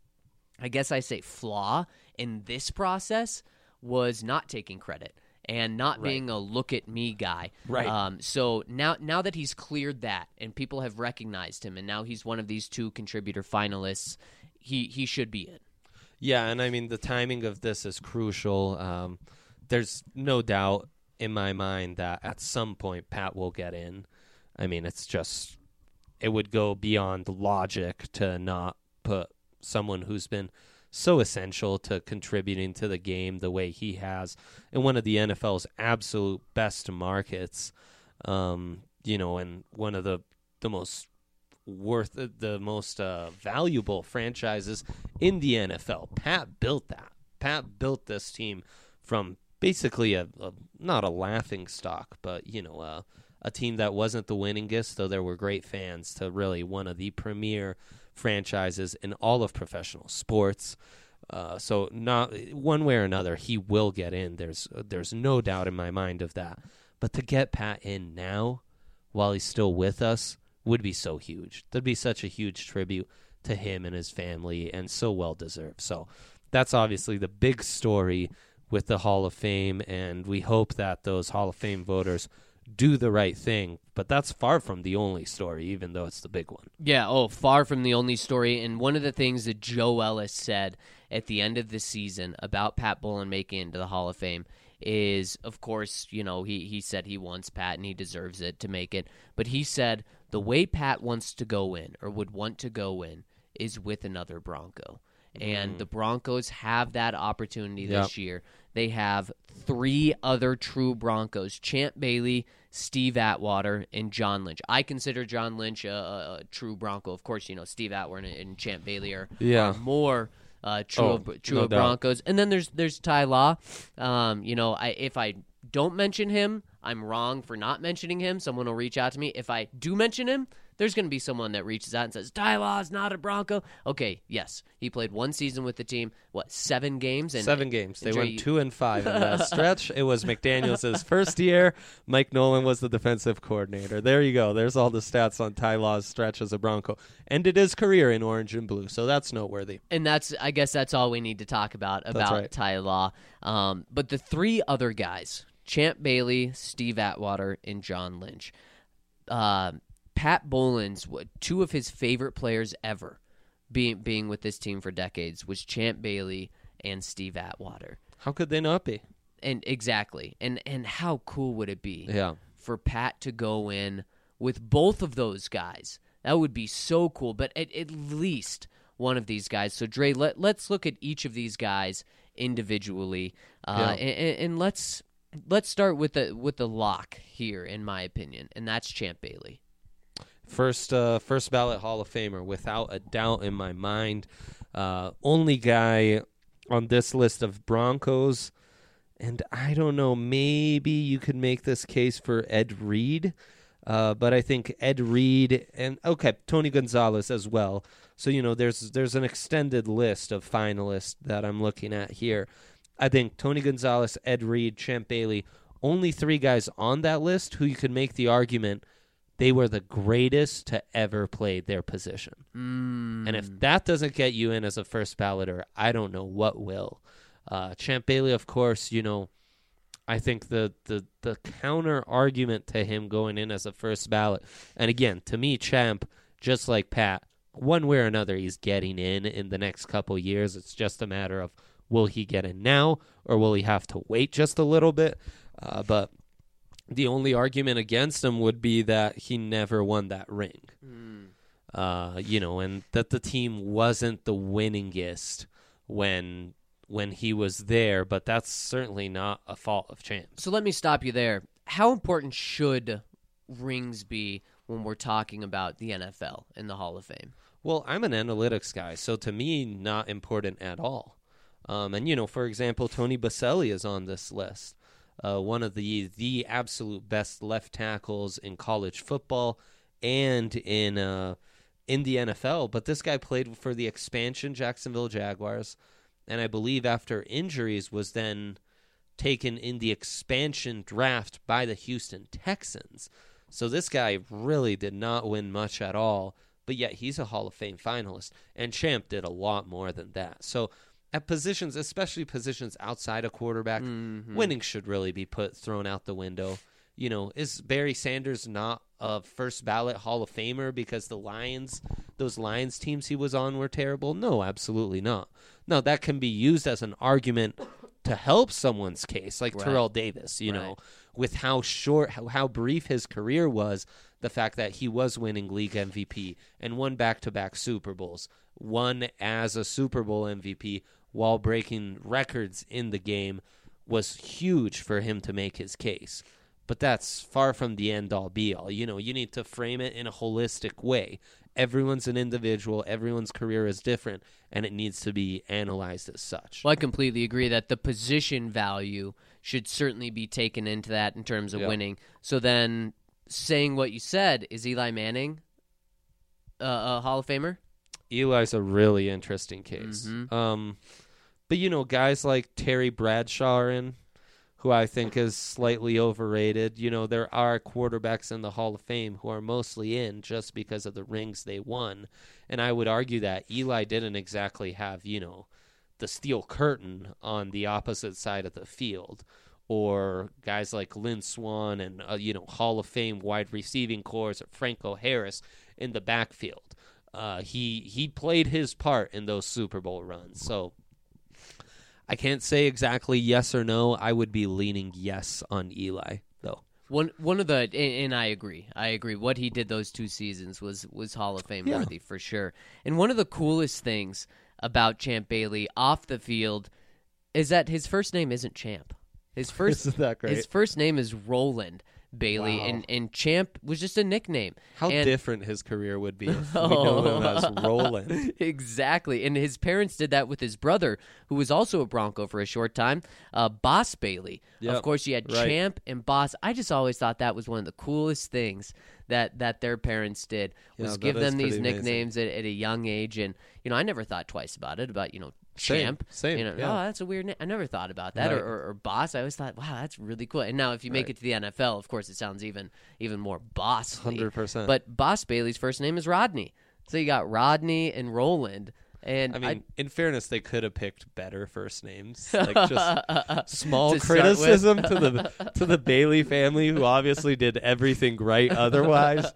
I guess I say, flaw in this process, was not taking credit and not being a look-at-me guy. Right. So now that he's cleared that and people have recognized him and now he's one of these 2 contributor finalists, he should be in. Yeah, and I mean, the timing of this is crucial. There's no doubt in my mind that at some point Pat will get in. I mean, it would go beyond logic to not put someone who's been so essential to contributing to the game the way he has in one of the NFL's absolute best markets, and one of the most valuable franchises in the NFL. Pat built that. Pat built this team from basically not a laughing stock, but a team that wasn't the winningest, though there were great fans, to really one of the premier franchises in all of professional sports. So not one way or another, he will get in. There's no doubt in my mind of that. But to get Pat in now, while he's still with us, would be so huge. That'd be such a huge tribute to him and his family, and so well deserved. So that's obviously the big story with the Hall of Fame, and we hope that those Hall of Fame voters do the right thing. But that's far from the only story, even though it's the big one. Yeah, far from the only story. And one of the things that Joe Ellis said at the end of the season about Pat Bowlen making it into the Hall of Fame is, of course, he said he wants Pat and he deserves it to make it. But he said the way Pat wants to go in, or would want to go in, is with another Bronco. And the Broncos have that opportunity this year. They have 3 other true Broncos: Champ Bailey, Steve Atwater, and John Lynch. I consider John Lynch a true Bronco. Of course, Steve Atwater and Champ Bailey are more true of Broncos. And then there's Ty Law. If I don't mention him, I'm wrong for not mentioning him. Someone will reach out to me. If I do mention him, there's going to be someone that reaches out and says, Ty Law is not a Bronco. Okay, yes. He played 1 season with the team. 7 games? 7 games. They went 2-5 in that stretch. It was McDaniels' first year. Mike Nolan was the defensive coordinator. There you go. There's all the stats on Ty Law's stretch as a Bronco. Ended his career in orange and blue, so that's noteworthy. And I guess that's all we need to talk about right. Ty Law. But the 3 other guys, Champ Bailey, Steve Atwater, and John Lynch. Pat Bowlen's 2 of his favorite players ever, being with this team for decades, was Champ Bailey and Steve Atwater. How could they not be? And exactly. And how cool would it be for Pat to go in with both of those guys? That would be so cool. But at least one of these guys. So Dre, let's look at each of these guys individually, and let's start with the lock here, in my opinion, and that's Champ Bailey. First ballot Hall of Famer, without a doubt in my mind. Only guy on this list of Broncos, and I don't know, maybe you could make this case for Ed Reed, but I think Ed Reed and, Tony Gonzalez as well. So, there's an extended list of finalists that I'm looking at here. I think Tony Gonzalez, Ed Reed, Champ Bailey, only 3 guys on that list who you could make the argument they were the greatest to ever play their position. And if that doesn't get you in as a first balloter, I don't know what will. Champ Bailey, of course, I think the counter argument to him going in as a first ballot, and again, to me, Champ, just like Pat, one way or another, he's getting in the next couple years. It's just a matter of, will he get in now, or will he have to wait just a little bit? But the only argument against him would be that he never won that ring. And that the team wasn't the winningest when he was there, but that's certainly not a fault of Champ. So let me stop you there. How important should rings be when we're talking about the NFL and the Hall of Fame? Well, I'm an analytics guy, so to me, not important at all. And for example, Tony Boselli is on this list. One of the absolute best left tackles in college football and in the NFL. But this guy played for the expansion Jacksonville Jaguars, and I believe after injuries was then taken in the expansion draft by the Houston Texans. So this guy really did not win much at all, but yet he's a Hall of Fame finalist. And Champ did a lot more than that. So at positions, especially positions outside of quarterback, winning should really be thrown out the window. Is Barry Sanders not a first ballot Hall of Famer because those Lions teams he was on were terrible? No, absolutely not. No, that can be used as an argument to help someone's case, like Terrell Davis, with how brief his career was, the fact that he was winning league MVP and won back-to-back Super Bowls, won as a Super Bowl MVP while breaking records in the game, was huge for him to make his case. But that's far from the end-all, be-all. You need to frame it in a holistic way. Everyone's an individual. Everyone's career is different, and it needs to be analyzed as such. Well, I completely agree that the position value should certainly be taken into that in terms of winning. So then, saying what you said, is Eli Manning a Hall of Famer? Eli's a really interesting case. But, guys like Terry Bradshaw are in, who I think is slightly overrated. There are quarterbacks in the Hall of Fame who are mostly in just because of the rings they won. And I would argue that Eli didn't exactly have, the steel curtain on the opposite side of the field. Or guys like Lynn Swann and, Hall of Fame wide receiving cores, or Franco Harris in the backfield. He played his part in those Super Bowl runs. So I can't say exactly yes or no. I would be leaning yes on Eli, though. One of the, and I agree. What he did those 2 seasons was Hall of Fame worthy for sure. And one of the coolest things about Champ Bailey off the field is that his first name isn't Champ. Isn't that great? His first name is Roland Bailey, Wow. and Champ was just a nickname. How And- different his career would be if we know him as Roland. Exactly. And his parents did that with his brother, who was also a Bronco for a short time, Boss Bailey. Yep, Of course, you had right. Champ and Boss. I just always thought that was one of the coolest things that their parents did, was Yeah, give that is them these pretty amazing. nicknames at a young age. And, I never thought twice about it, about, Champ. Same, Oh, yeah. that's a weird name. I never thought about that. Right. Or Boss. I always thought, wow, that's really cool. And now if you make Right. it to the NFL, of course, it sounds even more bossly. 100%. But Boss Bailey's first name is Rodney. So you got Rodney and Roland. And I mean, in fairness, they could have picked better first names. Like just small To start with. criticism to the Bailey family, who obviously did everything right otherwise.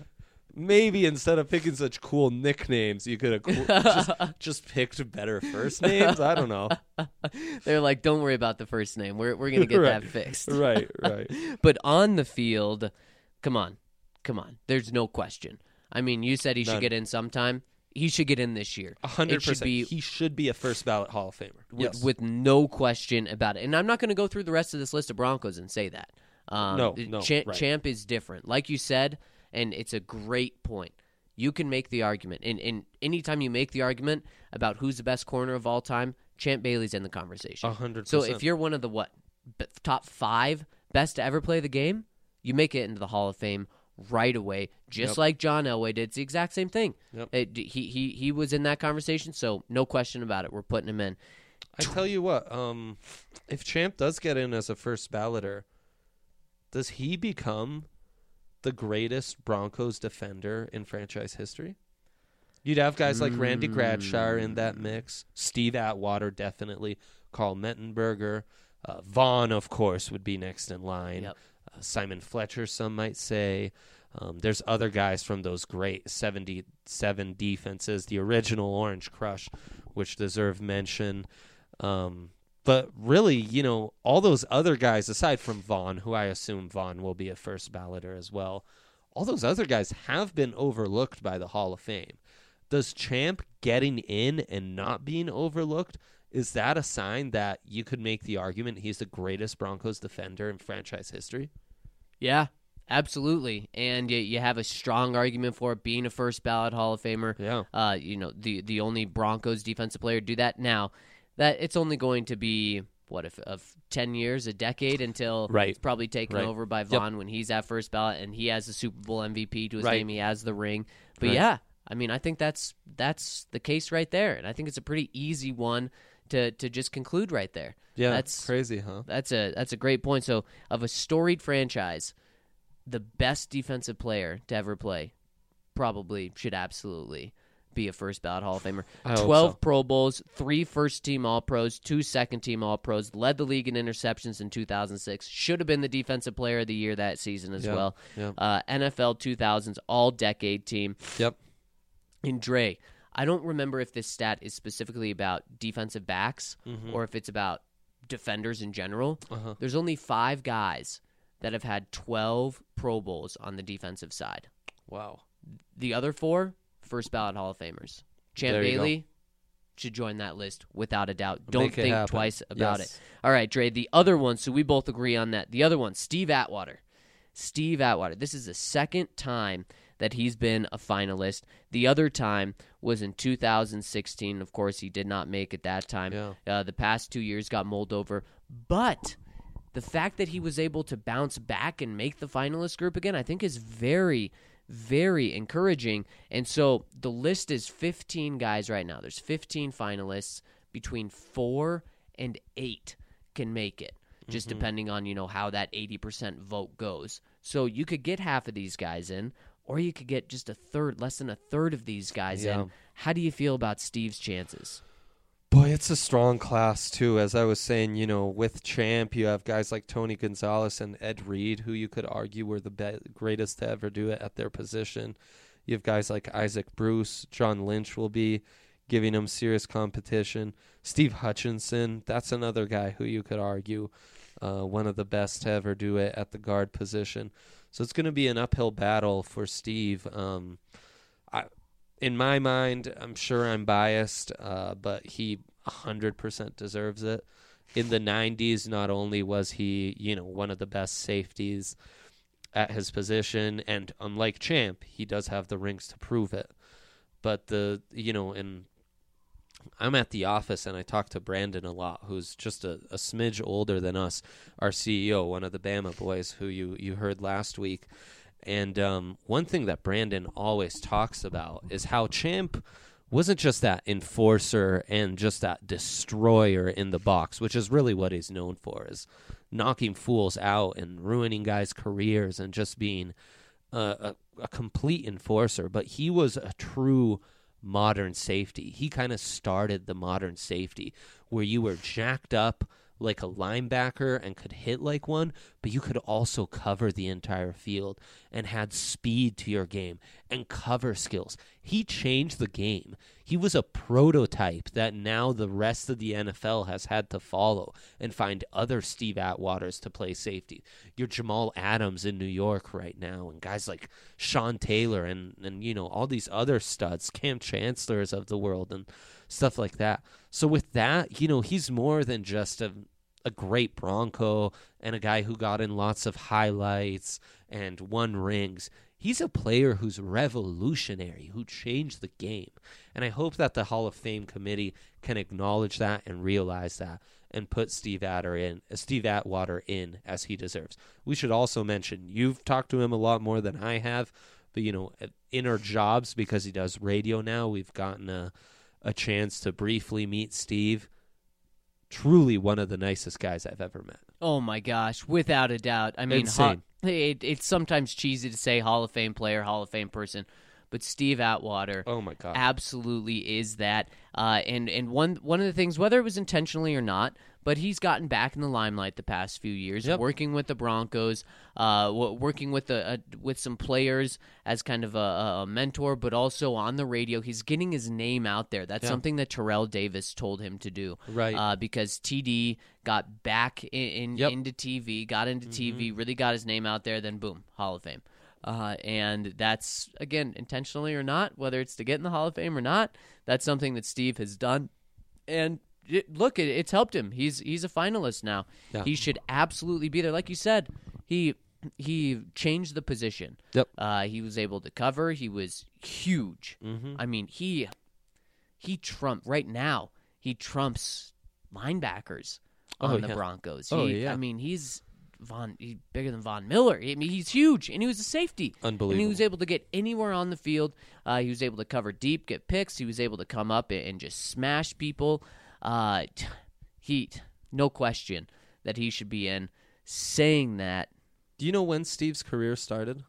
Maybe instead of picking such cool nicknames, you could have just picked better first names. I don't know. they're like, don't worry about the first name. We're going to get Right. that fixed. Right. But on the field, come on. There's no question. I mean, you said he should None. get in sometime. He should get in this year. 100%. He should be a first ballot Hall of Famer. Yes. With no question about it. And I'm not going to go through the rest of this list of Broncos and say that. No, right. Champ is different. Like you said, and it's a great point. You can make the argument. And anytime you make the argument about who's the best corner of all time, Champ Bailey's in the conversation. 100%. So if you're one of the top 5 best to ever play the game, you make it into the Hall of Fame right away, just Yep. like John Elway did. It's the exact same thing. Yep. He was in that conversation, so no question about it. We're putting him in. I tell you what, if Champ does get in as a first balloter, does he become the greatest Broncos defender in franchise history? You'd have guys like Randy Gradshire in that mix. Steve Atwater, definitely. Carl Mettenberger. Vaughn, of course, would be next in line. Yep. Simon Fletcher, some might say. There's other guys from those great 77 defenses, the original Orange Crush, which deserve mention. But really, all those other guys, aside from Vaughn, who I assume Vaughn will be a first balloter as well, all those other guys have been overlooked by the Hall of Fame. Does Champ getting in and not being overlooked, is that a sign that you could make the argument he's the greatest Broncos defender in franchise history? Yeah, absolutely. And you have a strong argument for it being a first ballot Hall of Famer. Yeah. The only Broncos defensive player to do that. Now, that it's only going to be, of 10 years, a decade until Right. it's probably taken Right. over by Vaughn when he's at first ballot and he has the Super Bowl MVP to his Right. name. He has the ring. But Right. yeah, I mean, I think that's the case right there. And I think it's a pretty easy one to just conclude right there. Yeah, That's crazy, huh? That's a great point. So, of a storied franchise, the best defensive player to ever play probably should absolutely be a first ballot Hall of Famer. I hope 12 so. Pro Bowls, 3 first-team All-Pros, 2 second-team All-Pros, led the league in interceptions in 2006, should have been the Defensive Player of the Year that season as Yeah, well. yeah. NFL 2000s All-Decade Team. Yep. And Dre, I don't remember if this stat is specifically about defensive backs or if it's about defenders in general. Uh-huh. There's only 5 guys that have had 12 Pro Bowls on the defensive side. Wow. The other 4, first ballot Hall of Famers. Champ There you Bailey should join that list without a doubt. Don't Make it think happen. twice about Yes. it. All right, Dre, the other one, so we both agree on that. The other one, Steve Atwater. Steve Atwater. This is the second time that he's been a finalist. The other time was in 2016. Of course, he did not make it that time. Yeah. The past 2 years got mulled over. But the fact that he was able to bounce back and make the finalist group again, I think is very, very encouraging. And so the list is 15 guys right now. There's 15 finalists. Between 4 and 8 can make it, just depending on, how that 80% vote goes. So you could get half of these guys in, or you could get just less than a third of these guys Yeah. in. How do you feel about Steve's chances? Boy, it's a strong class, too. As I was saying, with Champ, you have guys like Tony Gonzalez and Ed Reed, who you could argue were the greatest to ever do it at their position. You have guys like Isaac Bruce. John Lynch will be giving him serious competition. Steve Hutchinson, that's another guy who you could argue one of the best to ever do it at the guard position. So it's going to be an uphill battle for Steve. in my mind, I'm sure I'm biased, but he 100% deserves it. In the 90s, not only was he, one of the best safeties at his position, and unlike Champ, he does have the rings to prove it. But and I'm at the office and I talk to Brandon a lot, who's just a smidge older than us, our CEO, one of the Bama boys who you heard last week. And one thing that Brandon always talks about is how Champ wasn't just that enforcer and just that destroyer in the box, which is really what he's known for, is knocking fools out and ruining guys' careers and just being a complete enforcer. But he was a true modern safety. He kind of started the modern safety where you were jacked up like a linebacker and could hit like one, but you could also cover the entire field and had speed to your game and cover skills. He changed the game. He was a prototype that now the rest of the NFL has had to follow and find other Steve Atwaters to play safety. Your Jamal Adams in New York right now, and guys like Sean Taylor and all these other studs, Cam Chancellors of the world and stuff like that. So with that, he's more than just a great Bronco and a guy who got in lots of highlights and won rings. He's a player who's revolutionary, who changed the game. And I hope that the Hall of Fame committee can acknowledge that and realize that and put Steve Atwater in as he deserves. We should also mention, you've talked to him a lot more than I have, but in our jobs, because he does radio now, we've gotten a chance to briefly meet Steve. Truly one of the nicest guys I've ever met. Oh my gosh, without a doubt. I mean, insane. It's sometimes cheesy to say Hall of Fame player, Hall of Fame person, but Steve Atwater, oh my God, absolutely is that. And one of the things, whether it was intentionally or not, but he's gotten back in the limelight the past few years, working with the Broncos, working with some players as kind of a mentor, but also on the radio. He's getting his name out there. That's something that Terrell Davis told him to do. Right. Because TD got back into TV, TV, really got his name out there, then boom, Hall of Fame. And that's, again, intentionally or not, whether it's to get in the Hall of Fame or not, that's something that Steve has done. And look, it's helped him. He's a finalist now. Yeah. He should absolutely be there. Like you said, he changed the position. Yep. He was able to cover. He was huge. Mm-hmm. I mean, he right now. He trumps linebackers on the Broncos. I mean, he's bigger than Von Miller. I mean, he's huge, and he was a safety. Unbelievable. And he was able to get anywhere on the field. He was able to cover deep, get picks. He was able to come up and just smash people. No question that he should be in. Saying that, do you know when Steve's career started?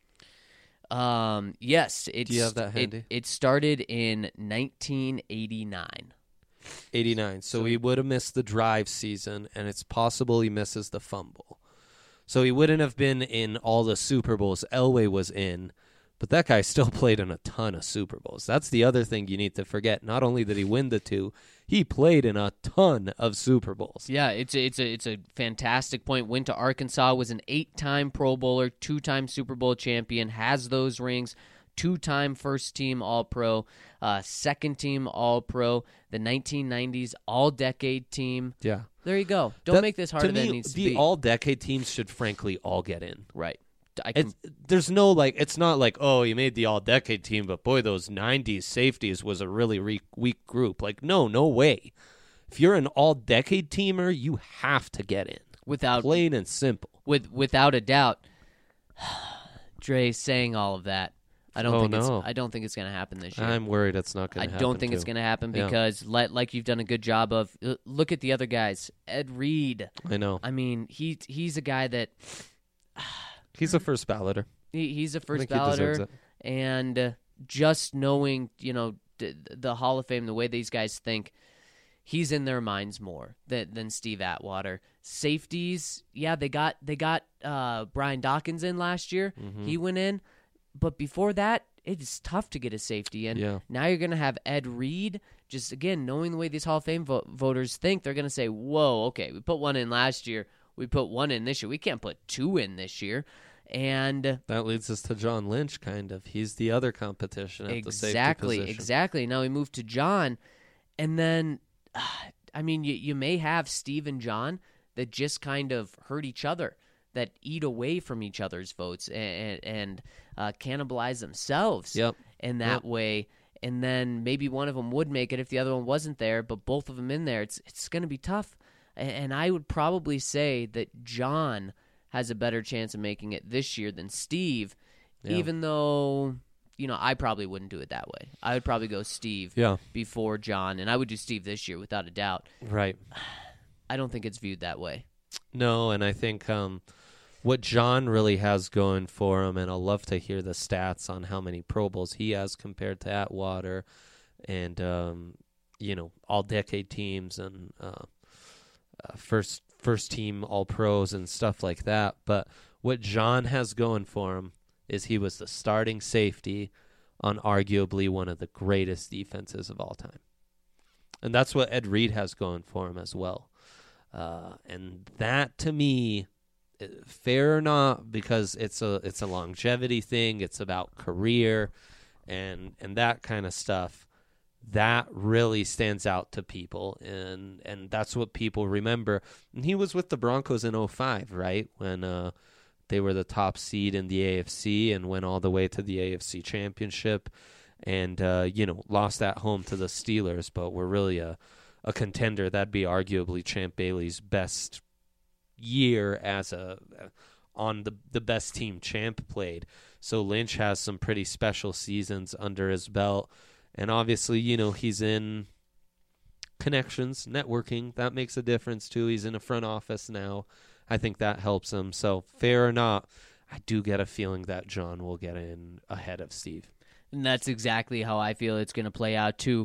Yes. Do you have that handy? It started in 1989. 89. So he would have missed the drive season, and it's possible he misses the fumble. So he wouldn't have been in all the Super Bowls Elway was in, but that guy still played in a ton of Super Bowls. That's the other thing you need to forget. Not only did he win the two, he played in a ton of Super Bowls. Yeah, it's a fantastic point. Went to Arkansas, was an 8-time Pro Bowler, 2-time Super Bowl champion, has those rings, 2-time first-team All-Pro, second-team All-Pro, the 1990s All-Decade team. Yeah. There you go. Don't make this harder than it needs to be. The All-Decade teams should frankly all get in. Right. There's no, it's not like, oh, you made the All-Decade team, but boy, those 90s safeties was a really weak group. No way. If you're an All-Decade teamer, you have to get in. Plain and simple. Without a doubt. Dre saying all of that. I don't think it's going to happen this year. I'm worried it's not going to happen. I don't think it's going to happen because, like you've done a good job of, look at the other guys. Ed Reed. I know. I mean, he's a guy that... He's a first balloter. He's a first balloter, and just knowing, the Hall of Fame, the way these guys think, he's in their minds more than Steve Atwater. Safeties, they got Brian Dawkins in last year. Mm-hmm. He went in, but before that, it's tough to get a safety in. Now you're going to have Ed Reed. Just again, knowing the way these Hall of Fame voters think, they're going to say, "Whoa, okay, we put one in last year." We put one in this year. We can't put two in this year. And that leads us to John Lynch, kind of. He's the other competition at the safety position. Exactly. Now we move to John, and then, I mean, you may have Steve and John that just kind of hurt each other, that eat away from each other's votes and cannibalize themselves in that way. And then maybe one of them would make it if the other one wasn't there, but both of them in there, it's going to be tough. And I would probably say that John has a better chance of making it this year than Steve, even though, I probably wouldn't do it that way. I would probably go Steve before John, and I would do Steve this year without a doubt. Right. I don't think it's viewed that way. No, and I think what John really has going for him, and I'll love to hear the stats on how many Pro Bowls he has compared to Atwater and, all-decade teams and first team All-Pros and stuff like that. But what John has going for him is he was the starting safety on arguably one of the greatest defenses of all time. And that's what Ed Reed has going for him as well. And that, to me, fair or not, because it's a longevity thing, it's about career and that kind of stuff, that really stands out to people, and that's what people remember. And he was with the Broncos in 2005, right, when they were the top seed in the AFC and went all the way to the AFC Championship and lost at home to the Steelers, but were really a contender. That'd be arguably Champ Bailey's best year as on the best team Champ played. So Lynch has some pretty special seasons under his belt. And obviously, he's in connections, networking. That makes a difference, too. He's in a front office now. I think that helps him. So, fair or not, I do get a feeling that John will get in ahead of Steve. And that's exactly how I feel it's going to play out, too.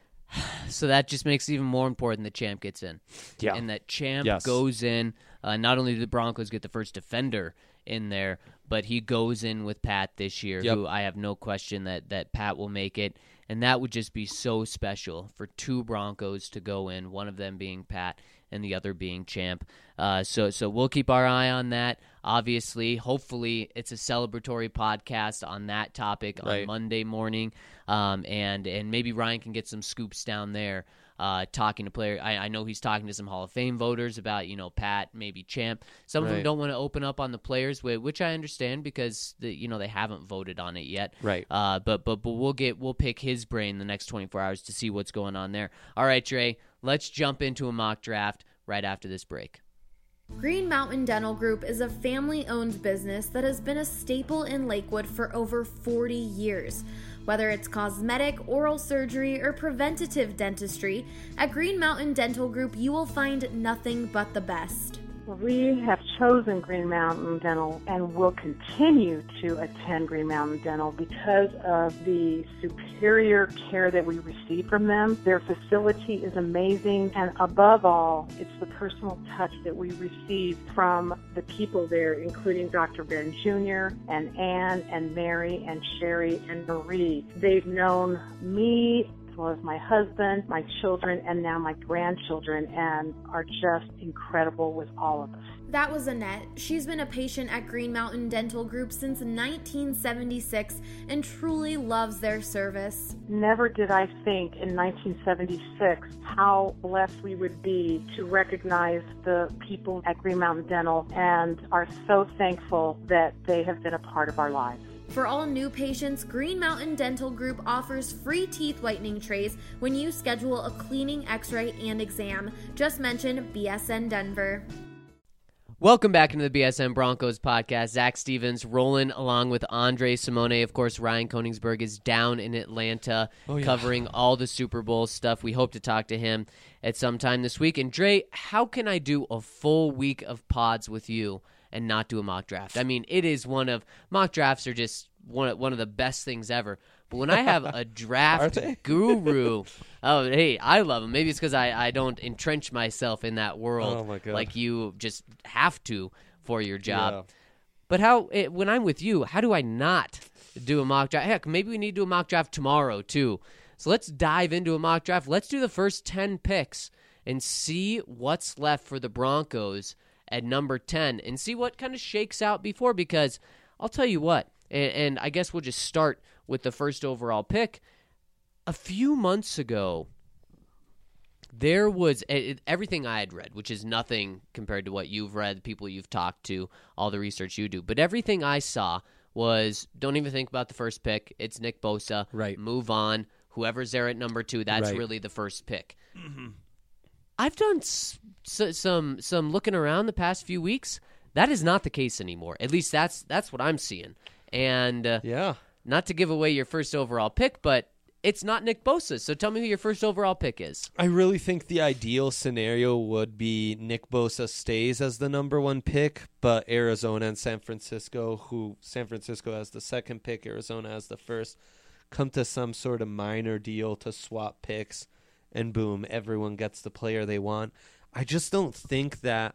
So that just makes it even more important that Champ gets in. Yeah. And that Champ goes in. Not only do the Broncos get the first defender in there, but he goes in with Pat this year, who I have no question that Pat will make it. And that would just be so special for two Broncos to go in, one of them being Pat and the other being Champ. So we'll keep our eye on that. Obviously, hopefully it's a celebratory podcast on that topic on Monday morning. And maybe Ryan can get some scoops down there. Talking to players. I know he's talking to some Hall of Fame voters about, Pat, maybe Champ. Some of them don't want to open up on the players, which I understand because they haven't voted on it yet. Right. But we'll pick his brain the next 24 hours to see what's going on there. All right, Dre, let's jump into a mock draft right after this break. Green Mountain Dental Group is a family-owned business that has been a staple in Lakewood for over 40 years. Whether it's cosmetic, oral surgery, or preventative dentistry, at Green Mountain Dental Group you will find nothing but the best. We have chosen Green Mountain Dental and will continue to attend Green Mountain Dental because of the superior care that we receive from them. Their facility is amazing, and above all, it's the personal touch that we receive from the people there, including Dr. Ben Jr. and Ann and Mary and Sherry and Marie. They've known me as well as my husband, my children, and now my grandchildren, and are just incredible with all of us. That was Annette. She's been a patient at Green Mountain Dental Group since 1976 and truly loves their service. Never did I think in 1976 how blessed we would be to recognize the people at Green Mountain Dental, and are so thankful that they have been a part of our lives. For all new patients, Green Mountain Dental Group offers free teeth whitening trays when you schedule a cleaning, x-ray, and exam. Just mention BSN Denver. Welcome back into the BSN Broncos podcast. Zach Stevens rolling along with Andre Simone. Of course, Ryan Koenigsberg is down in Atlanta covering all the Super Bowl stuff. We hope to talk to him at some time this week. And Dre, how can I do a full week of pods with you and not do a mock draft? I mean, mock drafts are just one of the best things ever. But when I have a draft guru, hey, I love them. Maybe it's because I don't entrench myself in that world like you just have to for your job. Yeah. But when I'm with you, how do I not do a mock draft? Heck, maybe we need to do a mock draft tomorrow too. So let's dive into a mock draft. Let's do the first 10 picks and see what's left for the Broncos at number 10 and see what kind of shakes out before, because I'll tell you what, and I guess we'll just start with the first overall pick. A few months ago, there was everything I had read, which is nothing compared to what you've read, people you've talked to, all the research you do. But everything I saw was, don't even think about the first pick. It's Nick Bosa. Right. Move on. Whoever's there at number 2, that's Right. really the first pick. Mm-hmm. I've done some looking around the past few weeks. That is not the case anymore. At least that's what I'm seeing. And Yeah. not to give away your first overall pick, but it's not Nick Bosa. So tell me who your first overall pick is. I really think the ideal scenario would be Nick Bosa stays as the number 1 pick, but Arizona and San Francisco, San Francisco has the second pick, Arizona has the first, come to some sort of minor deal to swap picks, and boom, everyone gets the player they want. I just don't think that,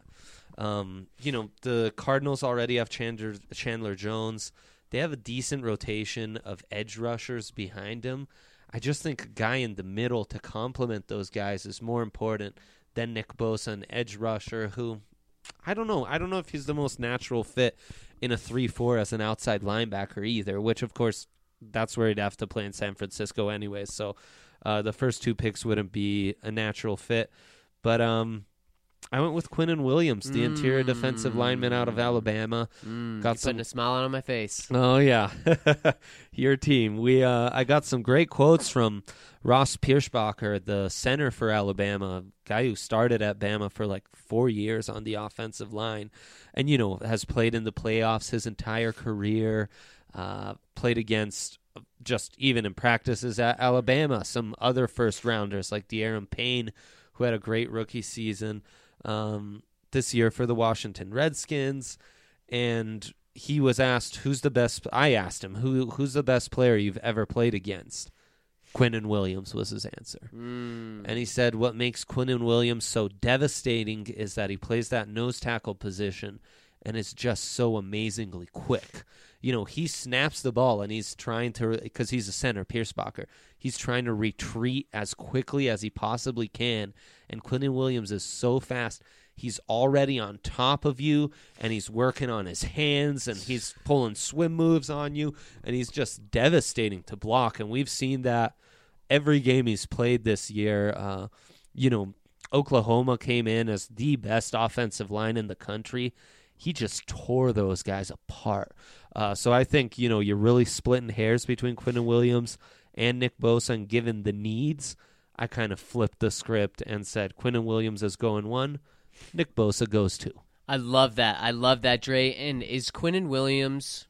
the Cardinals already have Chandler Jones. They have a decent rotation of edge rushers behind him. I just think a guy in the middle to complement those guys is more important than Nick Bosa, an edge rusher who, I don't know if he's the most natural fit in a 3-4 as an outside linebacker either, which, of course, that's where he'd have to play in San Francisco anyway. So the first 2 picks wouldn't be a natural fit. But I went with Quinnen Williams, the interior defensive lineman out of Alabama. Got putting a smile on my face. Oh yeah, your team. I got some great quotes from Ross Pierschbacher, the center for Alabama, guy who started at Bama for like 4 years on the offensive line, and has played in the playoffs his entire career. Played against, just even in practices at Alabama, some other first rounders like De'Aaron Payne, who had a great rookie season this year for the Washington Redskins. And he was asked, who's the best? I asked him, who's the best player you've ever played against? Quinnen Williams was his answer. And he said what makes Quinnen Williams so devastating is that he plays that nose tackle position and is just so amazingly quick. He snaps the ball and he's trying to, because he's a center, Pierschbacher, he's trying to retreat as quickly as he possibly can. And Quinnen Williams is so fast, he's already on top of you, and he's working on his hands, and he's pulling swim moves on you, and he's just devastating to block. And we've seen that every game he's played this year. Oklahoma came in as the best offensive line in the country. He just tore those guys apart. So I think, you're really splitting hairs between Quinnen Williams and Nick Bosa, and given the needs, I kind of flipped the script and said Quinnen Williams is going 1, Nick Bosa goes 2. I love that, Dre. And is Quinnen Williams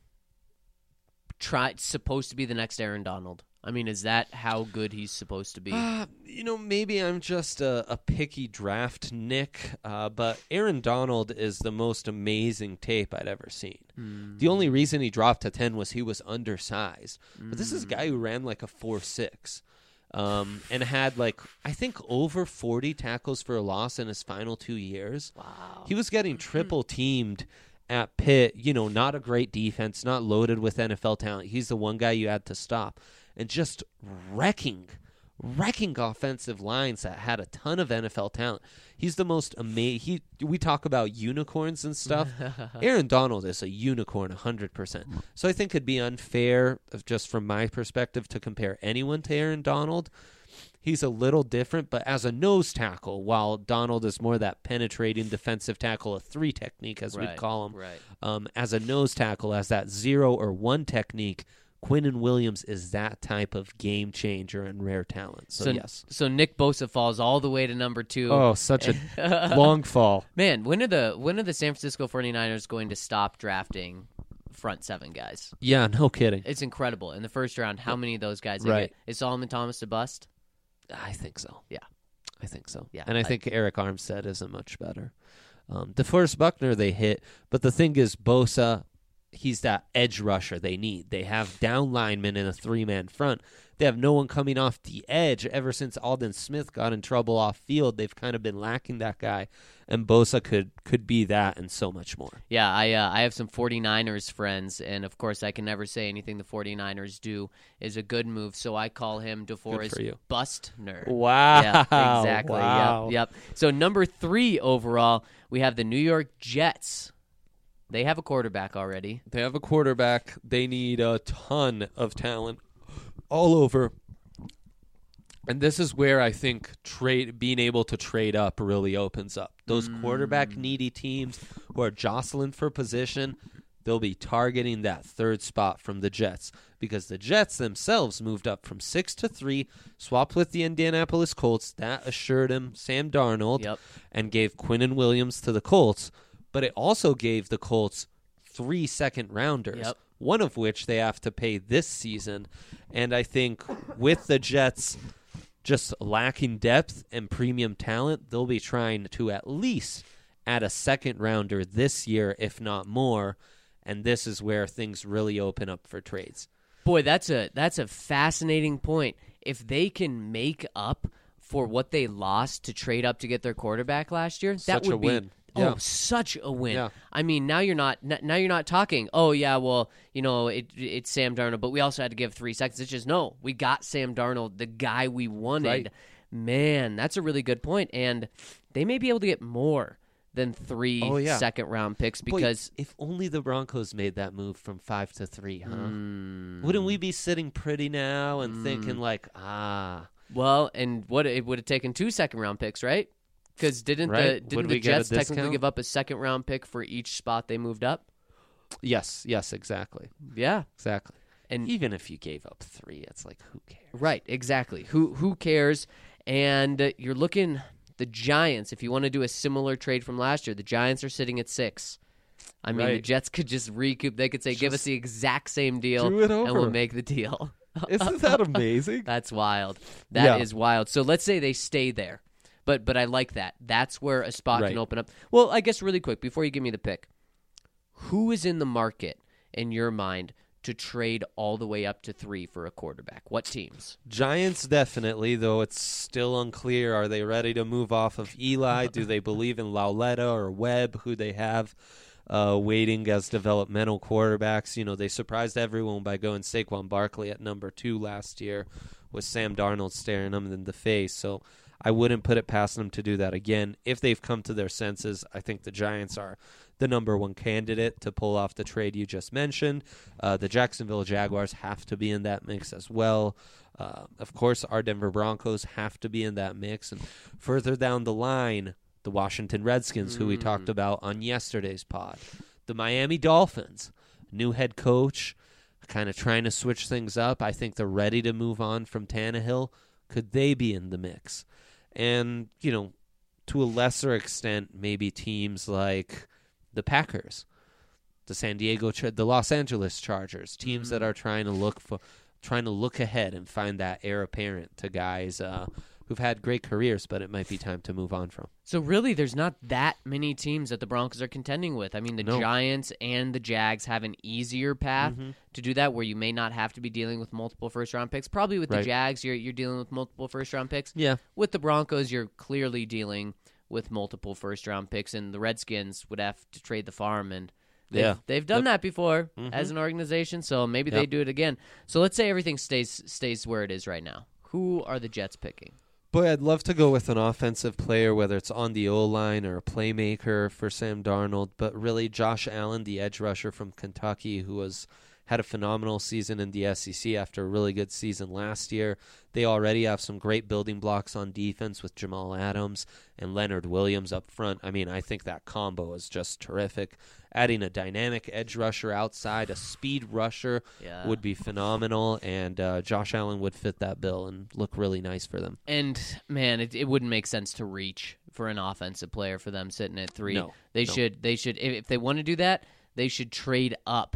supposed to be the next Aaron Donald? I mean, is that how good he's supposed to be? Maybe I'm just a picky draft Nick, but Aaron Donald is the most amazing tape I'd ever seen. The only reason he dropped to 10 was he was undersized. But this is a guy who ran like a 4.6 and had I think over 40 tackles for a loss in his final 2 years. Wow. He was getting triple teamed at Pitt, not a great defense, not loaded with NFL talent. He's the one guy you had to stop. And just wrecking offensive lines that had a ton of NFL talent. He's the most amazing. We talk about unicorns and stuff. Aaron Donald is a unicorn 100%. So I think it'd be unfair, just from my perspective, to compare anyone to Aaron Donald. He's a little different, but as a nose tackle, while Donald is more that penetrating defensive tackle, a 3 technique, as we'd call him. Right. As a nose tackle, as that 0 or 1 technique, Quinnen Williams is that type of game changer and rare talent. So yes. So Nick Bosa falls all the way to number 2. Oh, such a long fall. Man, when are the San Francisco 49ers going to stop drafting front 7 guys? Yeah, no kidding. It's incredible. In the first round, how many of those guys they Right. get? Is Solomon Thomas a bust? I think so. Yeah. I think so. Yeah, And I think Eric Armstead isn't much better. DeForest Buckner they hit, but the thing is Bosa, he's that edge rusher they need. They have down linemen in a 3-man front. They have no one coming off the edge. Ever since Aldon Smith got in trouble off field, they've kind of been lacking that guy. And Bosa could be that and so much more. Yeah, I have some 49ers friends, and of course I can never say anything the 49ers do is a good move, so I call him DeForest Bustner. Wow. Yeah, exactly. Wow. Yep. So number 3 overall, we have the New York Jets. They have a quarterback already. They have a quarterback. They need a ton of talent all over. And this is where I think being able to trade up really opens up. Those quarterback needy teams who are jostling for position, they'll be targeting that 3rd spot from the Jets, because the Jets themselves moved up from 6 to 3, swapped with the Indianapolis Colts. That assured him Sam Darnold and gave Quinnen Williams to the Colts. But it also gave the Colts 3 second-rounders, one of which they have to pay this season. And I think with the Jets just lacking depth and premium talent, they'll be trying to at least add a second-rounder this year, if not more. And this is where things really open up for trades. Boy, that's a fascinating point. If they can make up for what they lost to trade up to get their quarterback last year, that would be win. Oh, such a win. Yeah. I mean, now you're not talking, oh, yeah, well, it's Sam Darnold, but we also had to give 3 seconds. It's just, no, we got Sam Darnold, the guy we wanted. Right. Man, that's a really good point. And they may be able to get more than 3 second-round picks because... Boy, if only the Broncos made that move from 5 to 3, huh? Wouldn't we be sitting pretty now and thinking Well, and what it would have taken 2 second-round picks, right? Because didn't the Jets technically give up a second-round pick for each spot they moved up? Yes, exactly. Yeah. Exactly. And even if you gave up 3, it's like, who cares? Right, exactly. Who cares? And you're looking, the Giants, if you want to do a similar trade from last year, the Giants are sitting at 6. I mean, the Jets could just recoup. They could say, give us the exact same deal, do it over. and we'll make the deal. Isn't that amazing? That's wild. That is wild. So let's say they stay there. But I like that. That's where a spot can open up. Well, I guess really quick, before you give me the pick, who is in the market, in your mind, to trade all the way up to 3 for a quarterback? What teams? Giants definitely, though it's still unclear. Are they ready to move off of Eli? Do they believe in Lauletta or Webb, who they have waiting as developmental quarterbacks? They surprised everyone by going Saquon Barkley at number 2 last year with Sam Darnold staring them in the face. So I wouldn't put it past them to do that again. If they've come to their senses, I think the Giants are the number 1 candidate to pull off the trade you just mentioned. The Jacksonville Jaguars have to be in that mix as well. Of course, our Denver Broncos have to be in that mix. And further down the line, the Washington Redskins, who we talked about on yesterday's pod. The Miami Dolphins, new head coach, kind of trying to switch things up. I think they're ready to move on from Tannehill. Could they be in the mix? And, to a lesser extent, maybe teams like the Packers, the Los Angeles Chargers, teams that are trying to look ahead and find that heir apparent to guys who've had great careers, but it might be time to move on from. So really, there's not that many teams that the Broncos are contending with. I mean, the Giants and the Jags have an easier path to do that, where you may not have to be dealing with multiple first-round picks. Probably with the Jags, you're dealing with multiple first-round picks. Yeah. With the Broncos, you're clearly dealing with multiple first-round picks, and the Redskins would have to trade the farm, and they've done that before as an organization, so maybe they do it again. So let's say everything stays where it is right now. Who are the Jets picking? Boy, I'd love to go with an offensive player, whether it's on the O-line or a playmaker for Sam Darnold, but really Josh Allen, the edge rusher from Kentucky, who had a phenomenal season in the SEC after a really good season last year. They already have some great building blocks on defense with Jamal Adams and Leonard Williams up front. I mean, I think that combo is just terrific. Adding a dynamic edge rusher outside, a speed rusher would be phenomenal, and Josh Allen would fit that bill and look really nice for them. And, man, it wouldn't make sense to reach for an offensive player for them sitting at 3. No. They should, if they want to do that, they should trade up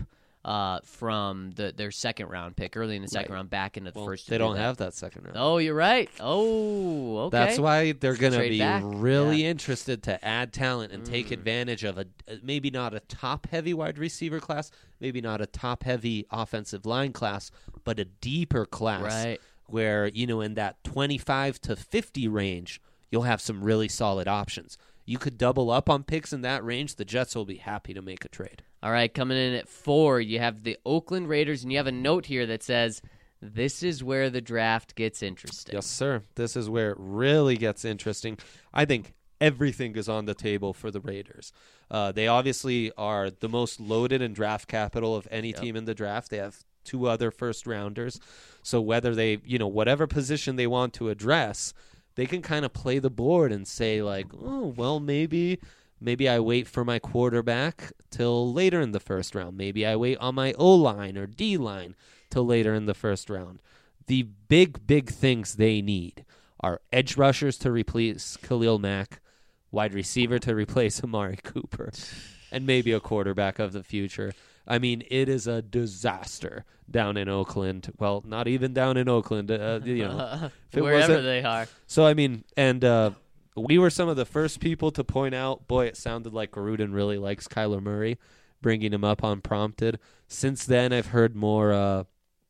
from their second round pick, early in the second round, back into the first. They don't have that second round. Oh, you're right. Oh, okay. That's why they're going to be back. really interested to add talent and take advantage of maybe not a top-heavy wide receiver class, maybe not a top-heavy offensive line class, but a deeper class Right. where, in that 25 to 50 range, you'll have some really solid options. You could double up on picks in that range. The Jets will be happy to make a trade. All right, coming in at 4, you have the Oakland Raiders, and you have a note here that says, this is where the draft gets interesting. Yes, sir. This is where it really gets interesting. I think everything is on the table for the Raiders. They obviously are the most loaded in draft capital of any team in the draft. They have 2 other first-rounders. So whether they, whatever position they want to address, they can kind of play the board and say, like, oh, well, maybe I wait for my quarterback till later in the first round. Maybe I wait on my O-line or D-line till later in the first round. The big things they need are edge rushers to replace Khalil Mack, wide receiver to replace Amari Cooper, and maybe a quarterback of the future. I mean, it is a disaster down in Oakland. Well, not even down in Oakland, wherever they are. So, I mean, and we were some of the first people to point out, boy, it sounded like Gruden really likes Kyler Murray, bringing him up unprompted. Since then, I've heard more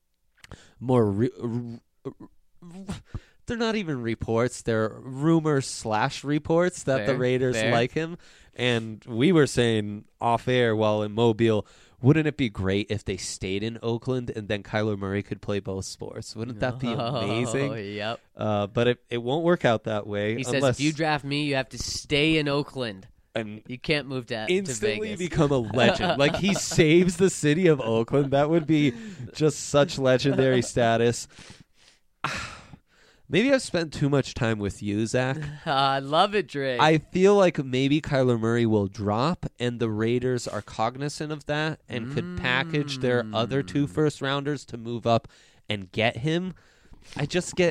they're not even reports. They're rumors/reports that the Raiders like him. And we were saying off air while in Mobile, wouldn't it be great if they stayed in Oakland and then Kyler Murray could play both sports? Wouldn't that be amazing? Oh, yep. But it won't work out that way. He says, if you draft me, you have to stay in Oakland. And you can't move to instantly Vegas. Become a legend. Like, he saves the city of Oakland. That would be just such legendary status. Maybe I've spent too much time with you, Zach. I love it, Drake. I feel like maybe Kyler Murray will drop, and the Raiders are cognizant of that and could package their other 2 first-rounders to move up and get him. I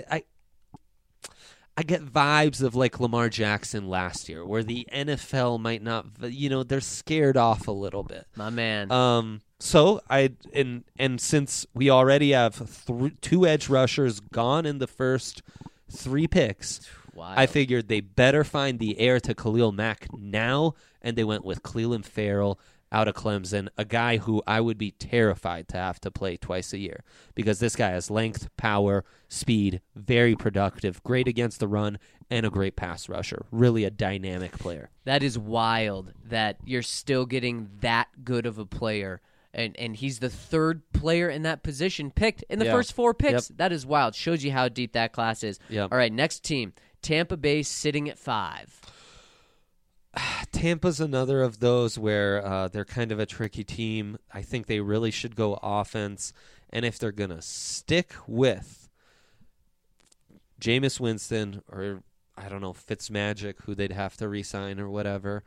get vibes of like Lamar Jackson last year, where the NFL might not, they're scared off a little bit. My man. So and since we already have 2 edge rushers gone in the first 3 picks, Wild. I figured they better find the heir to Khalil Mack now, and they went with Clelin Ferrell out of Clemson, a guy who I would be terrified to have to play twice a year, because this guy has length, power, speed, very productive, great against the run, and a great pass rusher. Really a dynamic player. That is wild that you're still getting that good of a player. And he's the 3rd player in that position picked in the first 4 picks. That is wild. Shows you how deep that class is. Yep. All right, next team. Tampa Bay sitting at 5. Tampa's another of those where they're kind of a tricky team. I think they really should go offense. And if they're going to stick with Jameis Winston or, I don't know, Fitzmagic, who they'd have to re-sign or whatever,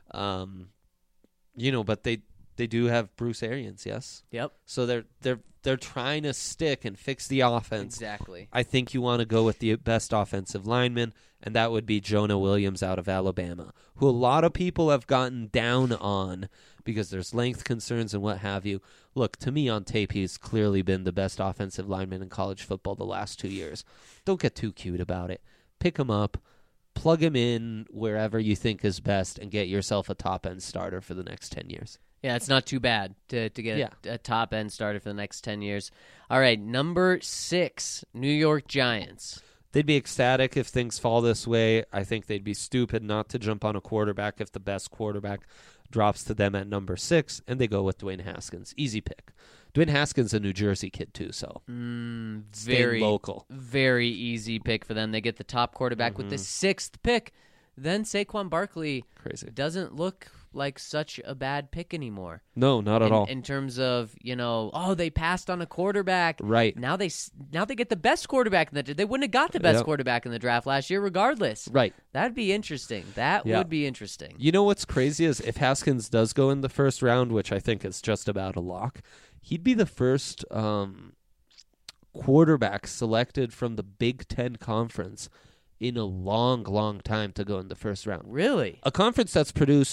but they do have Bruce Arians, yes? Yep. So they're trying to stick and fix the offense. Exactly. I think you want to go with the best offensive lineman, and that would be Jonah Williams out of Alabama, who a lot of people have gotten down on because there's length concerns and what have you. Look, to me on tape, he's clearly been the best offensive lineman in college football the last 2 years. Don't get too cute about it. Pick him up, plug him in wherever you think is best, and get yourself a top-end starter for the next 10 years. Yeah, it's not too bad to get a top-end starter for the next 10 years. All right, number 6, New York Giants. They'd be ecstatic if things fall this way. I think they'd be stupid not to jump on a quarterback if the best quarterback drops to them at number 6, and they go with Dwayne Haskins. Easy pick. Dwayne Haskins a New Jersey kid, too, so Very local. Very easy pick for them. They get the top quarterback with the 6th pick. Then Saquon Barkley doesn't look like such a bad pick anymore. No, not at all. In terms of, they passed on a quarterback. Right. Now they get the best quarterback in the draft. They wouldn't have got the best quarterback in the draft last year regardless. Right. That'd be interesting. That would be interesting. You know what's crazy is if Haskins does go in the first round, which I think is just about a lock, he'd be the first quarterback selected from the Big Ten Conference in a long, long time to go in the first round. Really? A conference that's produced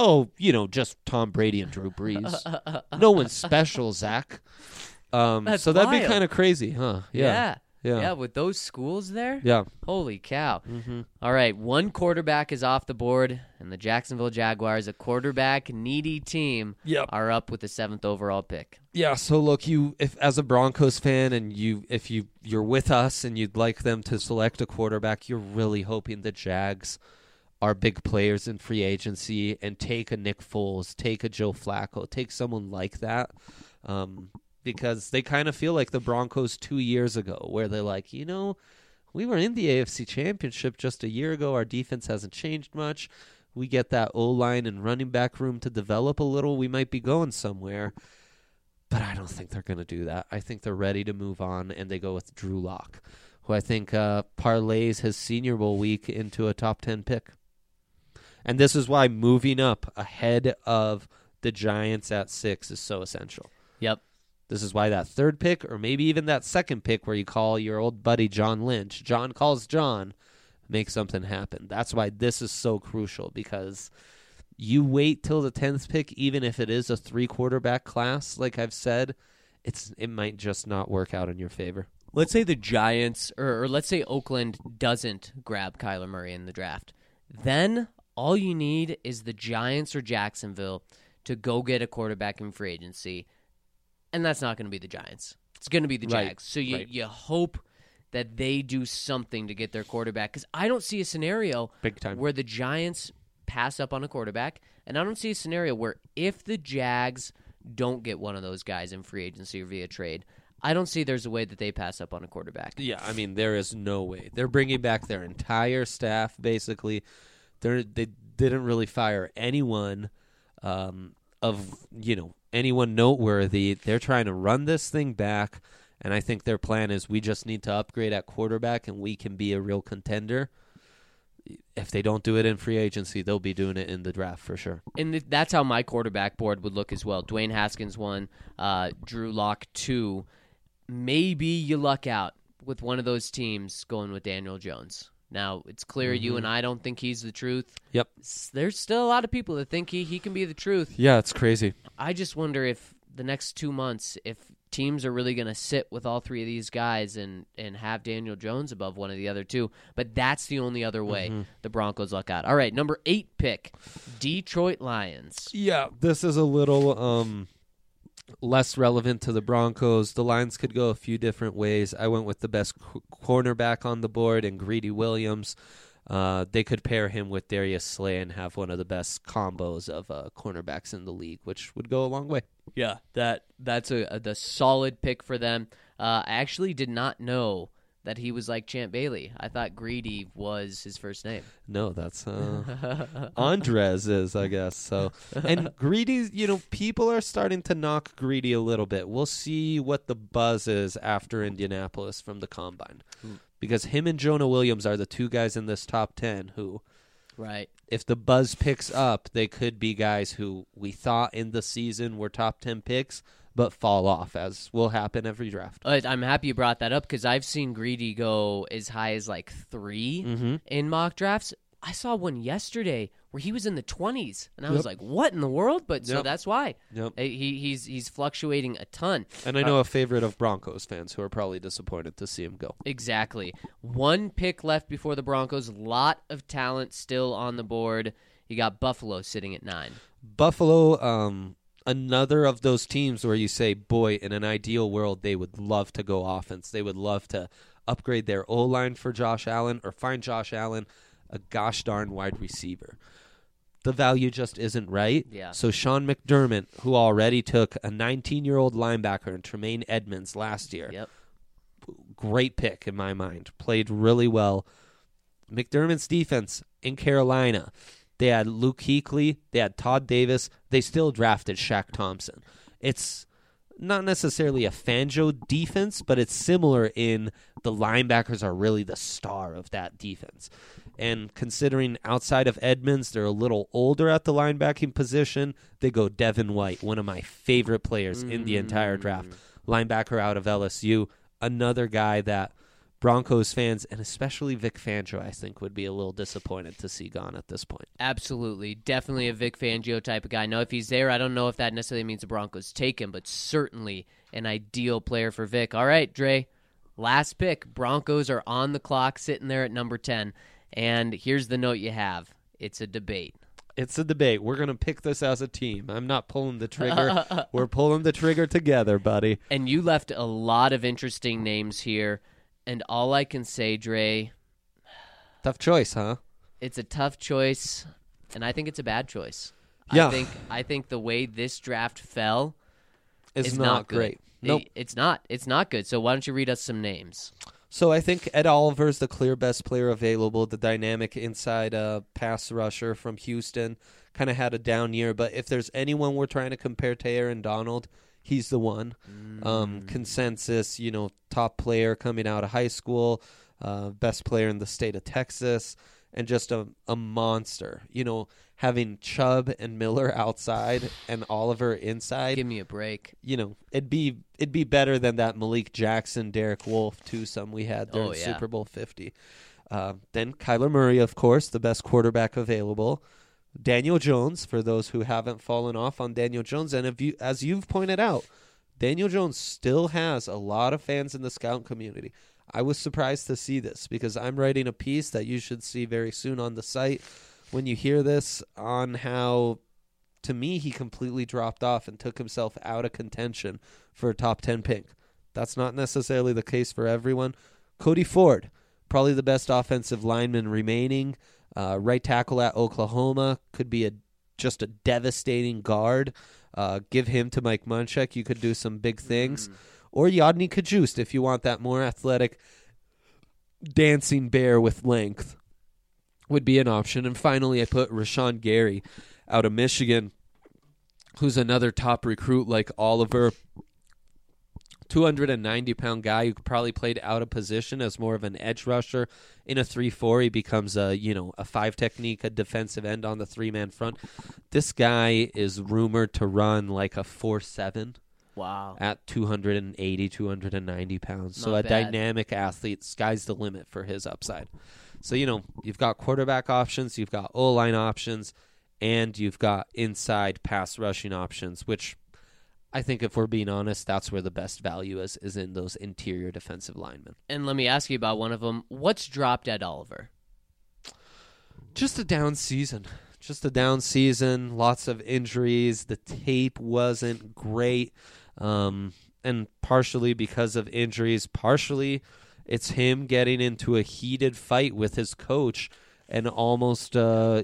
Oh, just Tom Brady and Drew Brees. No one's special, Zach. That's so that'd be wild. kind of crazy, huh? Yeah. Yeah. With those schools there? Yeah. Holy cow. Mm-hmm. All right, one quarterback is off the board, and the Jacksonville Jaguars, a quarterback-needy team, Yep. are up with the 7th overall pick. Yeah, so look, if as a Broncos fan and you're with us and you'd like them to select a quarterback, you're really hoping the Jags are big players in free agency and take a Nick Foles, take a Joe Flacco, take someone like that. Because they kind of feel like the Broncos 2 years ago, where they're like, we were in the AFC Championship just a year ago. Our defense hasn't changed much. We get that O-line and running back room to develop a little. We might be going somewhere. But I don't think they're going to do that. I think they're ready to move on, and they go with Drew Lock, who I think parlays his Senior Bowl week into a top 10 pick. And this is why moving up ahead of the Giants at 6 is so essential. Yep. This is why that 3rd pick, or maybe even that 2nd pick where you call your old buddy John Lynch, John calls John, make something happen. That's why this is so crucial, because you wait till the 10th pick, even if it is a 3-quarterback class, like I've said, it might just not work out in your favor. Let's say the Giants, or let's say Oakland doesn't grab Kyler Murray in the draft. Then all you need is the Giants or Jacksonville to go get a quarterback in free agency. And that's not going to be the Giants. It's going to be the Jags. Right. So you hope that they do something to get their quarterback. Because I don't see a scenario Big time. where the Giants pass up on a quarterback. And I don't see a scenario where if the Jags don't get one of those guys in free agency or via trade, I don't see there's a way that they pass up on a quarterback. Yeah, I mean, there is no way. They're bringing back their entire staff, basically. They didn't really fire anyone anyone noteworthy. They're trying to run this thing back, and I think their plan is we just need to upgrade at quarterback, and we can be a real contender. If they don't do it in free agency, they'll be doing it in the draft for sure. And that's how my quarterback board would look as well. Dwayne Haskins 1, Drew Lock 2. Maybe you luck out with one of those teams going with Daniel Jones. Now, it's clear you and I don't think he's the truth. Yep. There's still a lot of people that think he can be the truth. Yeah, it's crazy. I just wonder if the next 2 months, if teams are really going to sit with all 3 of these guys and have Daniel Jones above one of the other 2. But that's the only other way the Broncos luck out. All right, number 8 pick, Detroit Lions. Yeah, this is a little less relevant to the Broncos. The Lions could go a few different ways. I went with the best cornerback on the board in Greedy Williams. They could pair him with Darius Slay and have one of the best combos of cornerbacks in the league, which would go a long way. Yeah, that's the solid pick for them. I actually did not know that he was like Champ Bailey. I thought Greedy was his first name. No, that's Andres is, I guess. So, and Greedy, people are starting to knock Greedy a little bit. We'll see what the buzz is after Indianapolis from the Combine. Because him and Jonah Williams are the 2 guys in this top 10 who, right, if the buzz picks up, they could be guys who we thought in the season were top 10 picks, but fall off, as will happen every draft. I'm happy you brought that up because I've seen Greedy go as high as like 3 in mock drafts. I saw one yesterday where he was in the 20s, and I was like, what in the world? But so that's why. Yep. He's fluctuating a ton. And I know a favorite of Broncos fans who are probably disappointed to see him go. Exactly. 1 pick left before the Broncos. Lot of talent still on the board. You got Buffalo sitting at 9. Buffalo, another of those teams where you say, boy, in an ideal world, they would love to go offense. They would love to upgrade their O-line for Josh Allen or find Josh Allen a gosh darn wide receiver. The value just isn't right. Yeah. So Sean McDermott, who already took a 19-year-old linebacker in Tremaine Edmonds last year, Yep. great pick in my mind, played really well. McDermott's defense in Carolina, they had Luke Kuechly, they had Todd Davis, they still drafted Shaq Thompson. It's not necessarily a Fangio defense, but it's similar in the linebackers are really the star of that defense. And considering outside of Edmonds, they're a little older at the linebacking position, they go Devin White, one of my favorite players in the entire draft. Linebacker out of LSU, another guy that Broncos fans, and especially Vic Fangio, I think, would be a little disappointed to see gone at this point. Absolutely. Definitely a Vic Fangio type of guy. Now, if he's there, I don't know if that necessarily means the Broncos take him, but certainly an ideal player for Vic. All right, Dre, last pick. Broncos are on the clock, sitting there at number 10. And here's the note you have. It's a debate. It's a debate. We're going to pick this as a team. I'm not pulling the trigger. We're pulling the trigger together, buddy. And you left a lot of interesting names here. And all I can say, Dre, Tough choice, huh? it's a tough choice, and I think it's a bad choice. Yeah. I think the way this draft fell It's is not good. great. Nope. It's not. It's not good. So why don't you read us some names? So I think Ed Oliver's the clear best player available, the dynamic inside pass rusher from Houston. Kind of had a down year, but if there's anyone we're trying to compare to Aaron Donald, he's the one. Consensus, top player coming out of high school, best player in the state of Texas, and just a monster. Having Chubb and Miller outside and Oliver inside. Give me a break. It'd be better than that Malik Jackson, Derek Wolfe twosome we had during Super Bowl 50. Then Kyler Murray, of course, the best quarterback available. Daniel Jones, for those who haven't fallen off on Daniel Jones, and as you've pointed out, Daniel Jones still has a lot of fans in the scout community. I was surprised to see this because I'm writing a piece that you should see very soon on the site when you hear this on how, to me, he completely dropped off and took himself out of contention for a top 10 pick. That's not necessarily the case for everyone. Cody Ford, probably the best offensive lineman remaining. Right tackle at Oklahoma, could be just a devastating guard. Give him to Mike Munchak. You could do some big things. Or Yodny Kajust if you want that more athletic dancing bear with length would be an option. And finally, I put Rashawn Gary out of Michigan, who's another top recruit like Oliver. 290-pound guy who probably played out of position as more of an edge rusher. In a 3-4, he becomes a 5 technique, a defensive end on the 3-man front. This guy is rumored to run like a 4.7. Wow. At 280, 290 pounds. So a dynamic athlete. Sky's the limit for his upside. So, you've got quarterback options, you've got O-line options, and you've got inside pass rushing options, which I think if we're being honest, that's where the best value is in those interior defensive linemen. And let me ask you about one of them. What's dropped Ed Oliver? Just a down season. Lots of injuries. The tape wasn't great. And partially because of injuries, partially it's him getting into a heated fight with his coach and almost on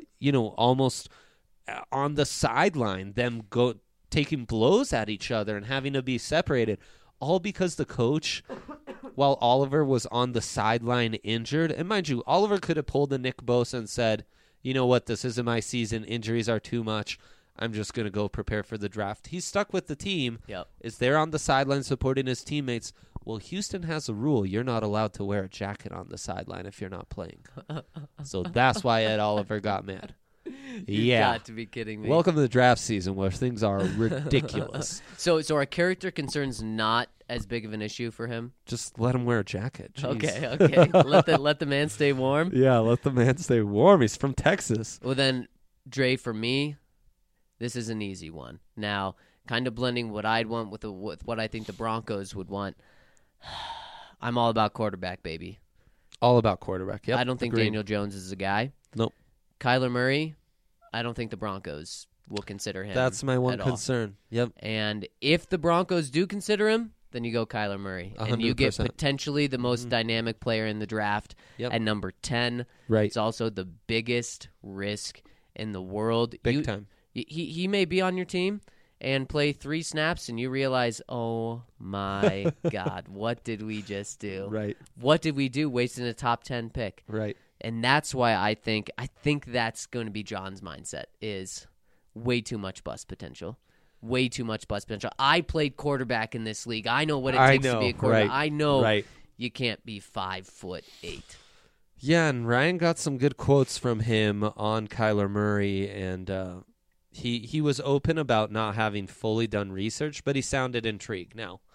the sideline, them taking blows at each other and having to be separated, all because the coach, while Oliver was on the sideline injured, and mind you, Oliver could have pulled a Nick Bosa and said, you know what, this isn't my season, injuries are too much, I'm just going to go prepare for the draft. He's stuck with the team, is there on the sideline supporting his teammates. Well, Houston has a rule. You're not allowed to wear a jacket on the sideline if you're not playing. So that's why Ed Oliver got mad. You got to be kidding me. Welcome to the draft season where things are ridiculous. So are character concerns not as big of an issue for him? Just let him wear a jacket. Jeez. Okay. Let the man stay warm? Yeah, let the man stay warm. He's from Texas. Well, then, Dre, for me, this is an easy one. Now, kind of blending what I'd want with what I think the Broncos would want. I'm all about quarterback, baby. All about quarterback, yep. I don't think Agreed. Daniel Jones is a guy. Nope. Kyler Murray, I don't think the Broncos will consider him. That's my one at all. concern. Yep. And if the Broncos do consider him, then you go Kyler Murray. 100%. And you get potentially the most dynamic player in the draft at number 10. Right. It's also the biggest risk in the world. Big time. He may be on your team and play 3 snaps, and you realize, oh, my God, what did we just do? Right. What did we do wasting a top 10 pick? Right. And that's why I think that's going to be John's mindset is way too much bust potential. Way too much bust potential. I played quarterback in this league. I know what it takes to be a quarterback. Right. I know right. You can't be 5'8". Yeah, and Ryan got some good quotes from him on Kyler Murray, and he was open about not having fully done research, but he sounded intrigued. Now,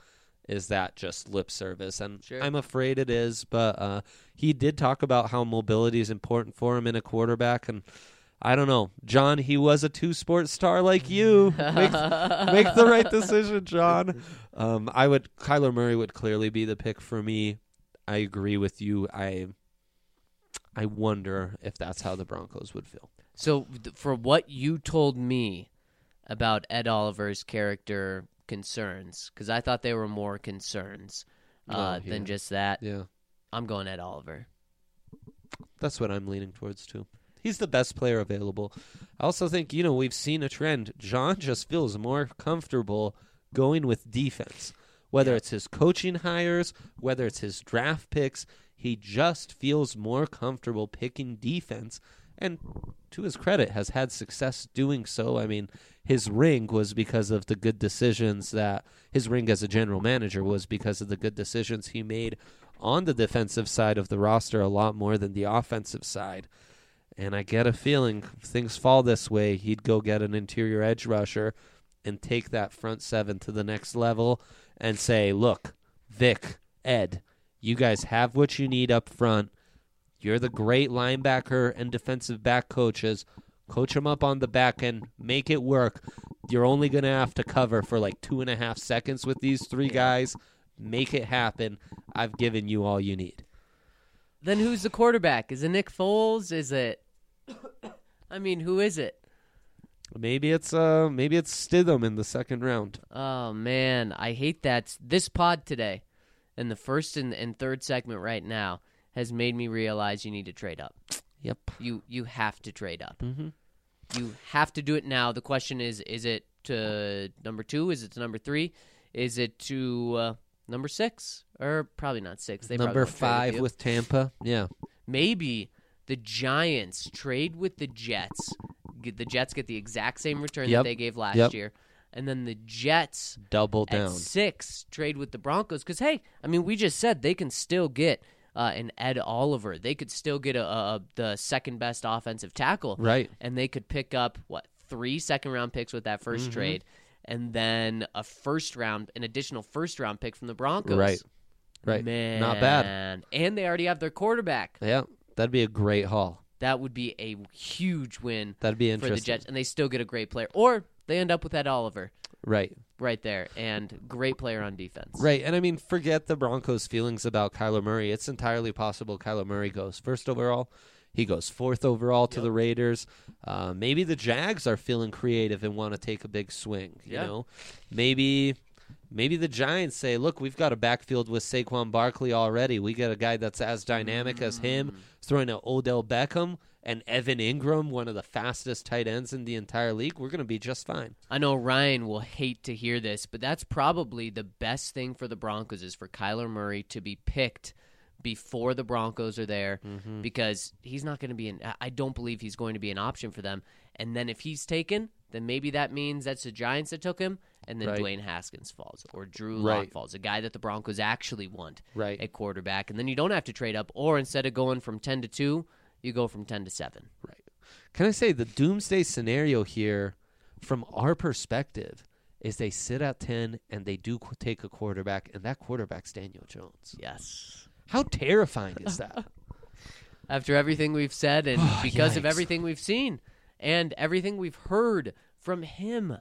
is that just lip service? And Sure. I'm afraid it is, but he did talk about how mobility is important for him in a quarterback, and I don't know. John, he was a two-sport star like you. Make the right decision, John. Kyler Murray would clearly be the pick for me. I agree with you. I wonder if that's how the Broncos would feel. So for what you told me about Ed Oliver's character concerns, because I thought they were more concerns than just that, Yeah. I'm going Ed Oliver. That's what I'm leaning towards, too. He's the best player available. I also think, we've seen a trend. John just feels more comfortable going with defense. Whether it's his coaching hires, whether it's his draft picks, he just feels more comfortable picking defense. And to his credit, has had success doing so. I mean, his ring was because of the good decisions his ring as a general manager was because of the good decisions he made on the defensive side of the roster a lot more than the offensive side. And I get a feeling if things fall this way, he'd go get an interior edge rusher and take that front seven to the next level and say, look, Vic, Ed, you guys have what you need up front. You're the great linebacker and defensive back coaches. Coach them up on the back end. Make it work. You're only going to have to cover for like 2.5 seconds with these three guys. Make it happen. I've given you all you need. Then who's the quarterback? Is it Nick Foles? Is it? I mean, who is it? Maybe it's Stidham in the second round. Oh man, I hate that. This pod today, and the first and third segment right now, has made me realize you need to trade up. Yep. You have to trade up. Mm-hmm. You have to do it now. The question is it to number 2? Is it to number 3? Is it to number 6? Or probably not 6. They number probably won't trade 5 with Tampa. Yeah. Maybe the Giants trade with the Jets. The Jets get the exact same return that they gave last year. And then the Jets double down. At 6 trade with the Broncos. Because, hey, I mean, we just said they can still get an Ed Oliver. They could still get the second-best offensive tackle. Right. And they could pick up, 3 second-round picks with that first trade. And then an additional first-round pick from the Broncos. Right. Man. Not bad. And they already have their quarterback. Yeah. That'd be a great haul. That would be a huge win. That'd be for interesting. the Jets, and they still get a great player. Or they end up with Ed Oliver. Right there, and great player on defense. Right, and I mean, forget the Broncos' feelings about Kyler Murray. It's entirely possible Kyler Murray goes first overall. He goes 4th overall to the Raiders. Maybe the Jags are feeling creative and want to take a big swing. You know, maybe the Giants say, "Look, we've got a backfield with Saquon Barkley already. We got a guy that's as dynamic as him, throwing to Odell Beckham and Evan Ingram, one of the fastest tight ends in the entire league. We're going to be just fine." I know Ryan will hate to hear this, but that's probably the best thing for the Broncos is for Kyler Murray to be picked before the Broncos are there, because he's not going to be I don't believe he's going to be an option for them. And then if he's taken, then maybe that means that's the Giants that took him, and then Dwayne Haskins falls, or Drew Lock falls, a guy that the Broncos actually want at quarterback. And then you don't have to trade up, or instead of going from 10 to 2, you go from 10 to 7. Right. Can I say the doomsday scenario here, from our perspective, is they sit at 10 and they do take a quarterback, and that quarterback's Daniel Jones. Yes. How terrifying is that? After everything we've said, and because of everything we've seen, and everything we've heard from him,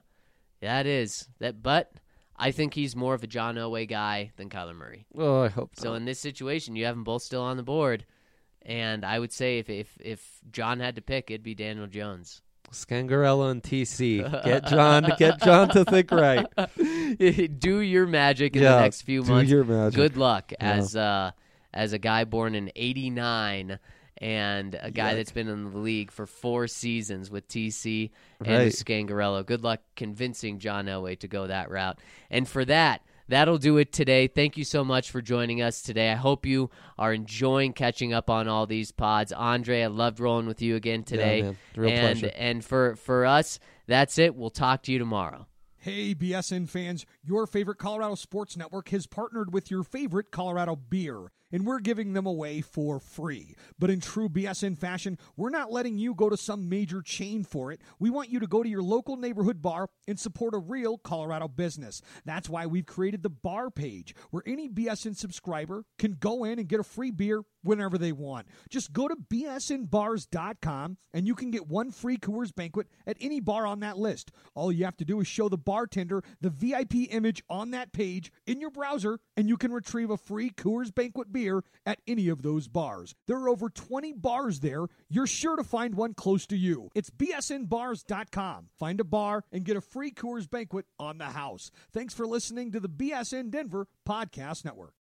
but I think he's more of a John Elway guy than Kyler Murray. Oh, I hope so. So in this situation, you have them both still on the board, and I would say if John had to pick, it'd be Daniel Jones. Scangarello and TC. Get John to think right. Do your magic in the next few months. Do your magic. Good luck as a guy born in '89 and a guy that's been in the league for 4 seasons with TC and Scangarello. Good luck convincing John Elway to go that route. And for that'll do it today. Thank you so much for joining us today. I hope you are enjoying catching up on all these pods. Andre, I loved rolling with you again today. Yeah, man. Real pleasure. And for us, that's it. We'll talk to you tomorrow. Hey, BSN fans, your favorite Colorado Sports Network has partnered with your favorite Colorado beer. and we're giving them away for free. But in true BSN fashion, we're not letting you go to some major chain for it. We want you to go to your local neighborhood bar and support a real Colorado business. That's why we've created the bar page, where any BSN subscriber can go in and get a free beer whenever they want. Just go to bsnbars.com and you can get one free Coors Banquet at any bar on that list. All you have to do is show the bartender the VIP image on that page in your browser, and you can retrieve a free Coors Banquet beer at any of those bars. There are over 20 bars there. You're sure to find one close to you. It's bsnbars.com. Find a bar and get a free Coors Banquet on the house. Thanks for listening to the BSN Denver Podcast Network.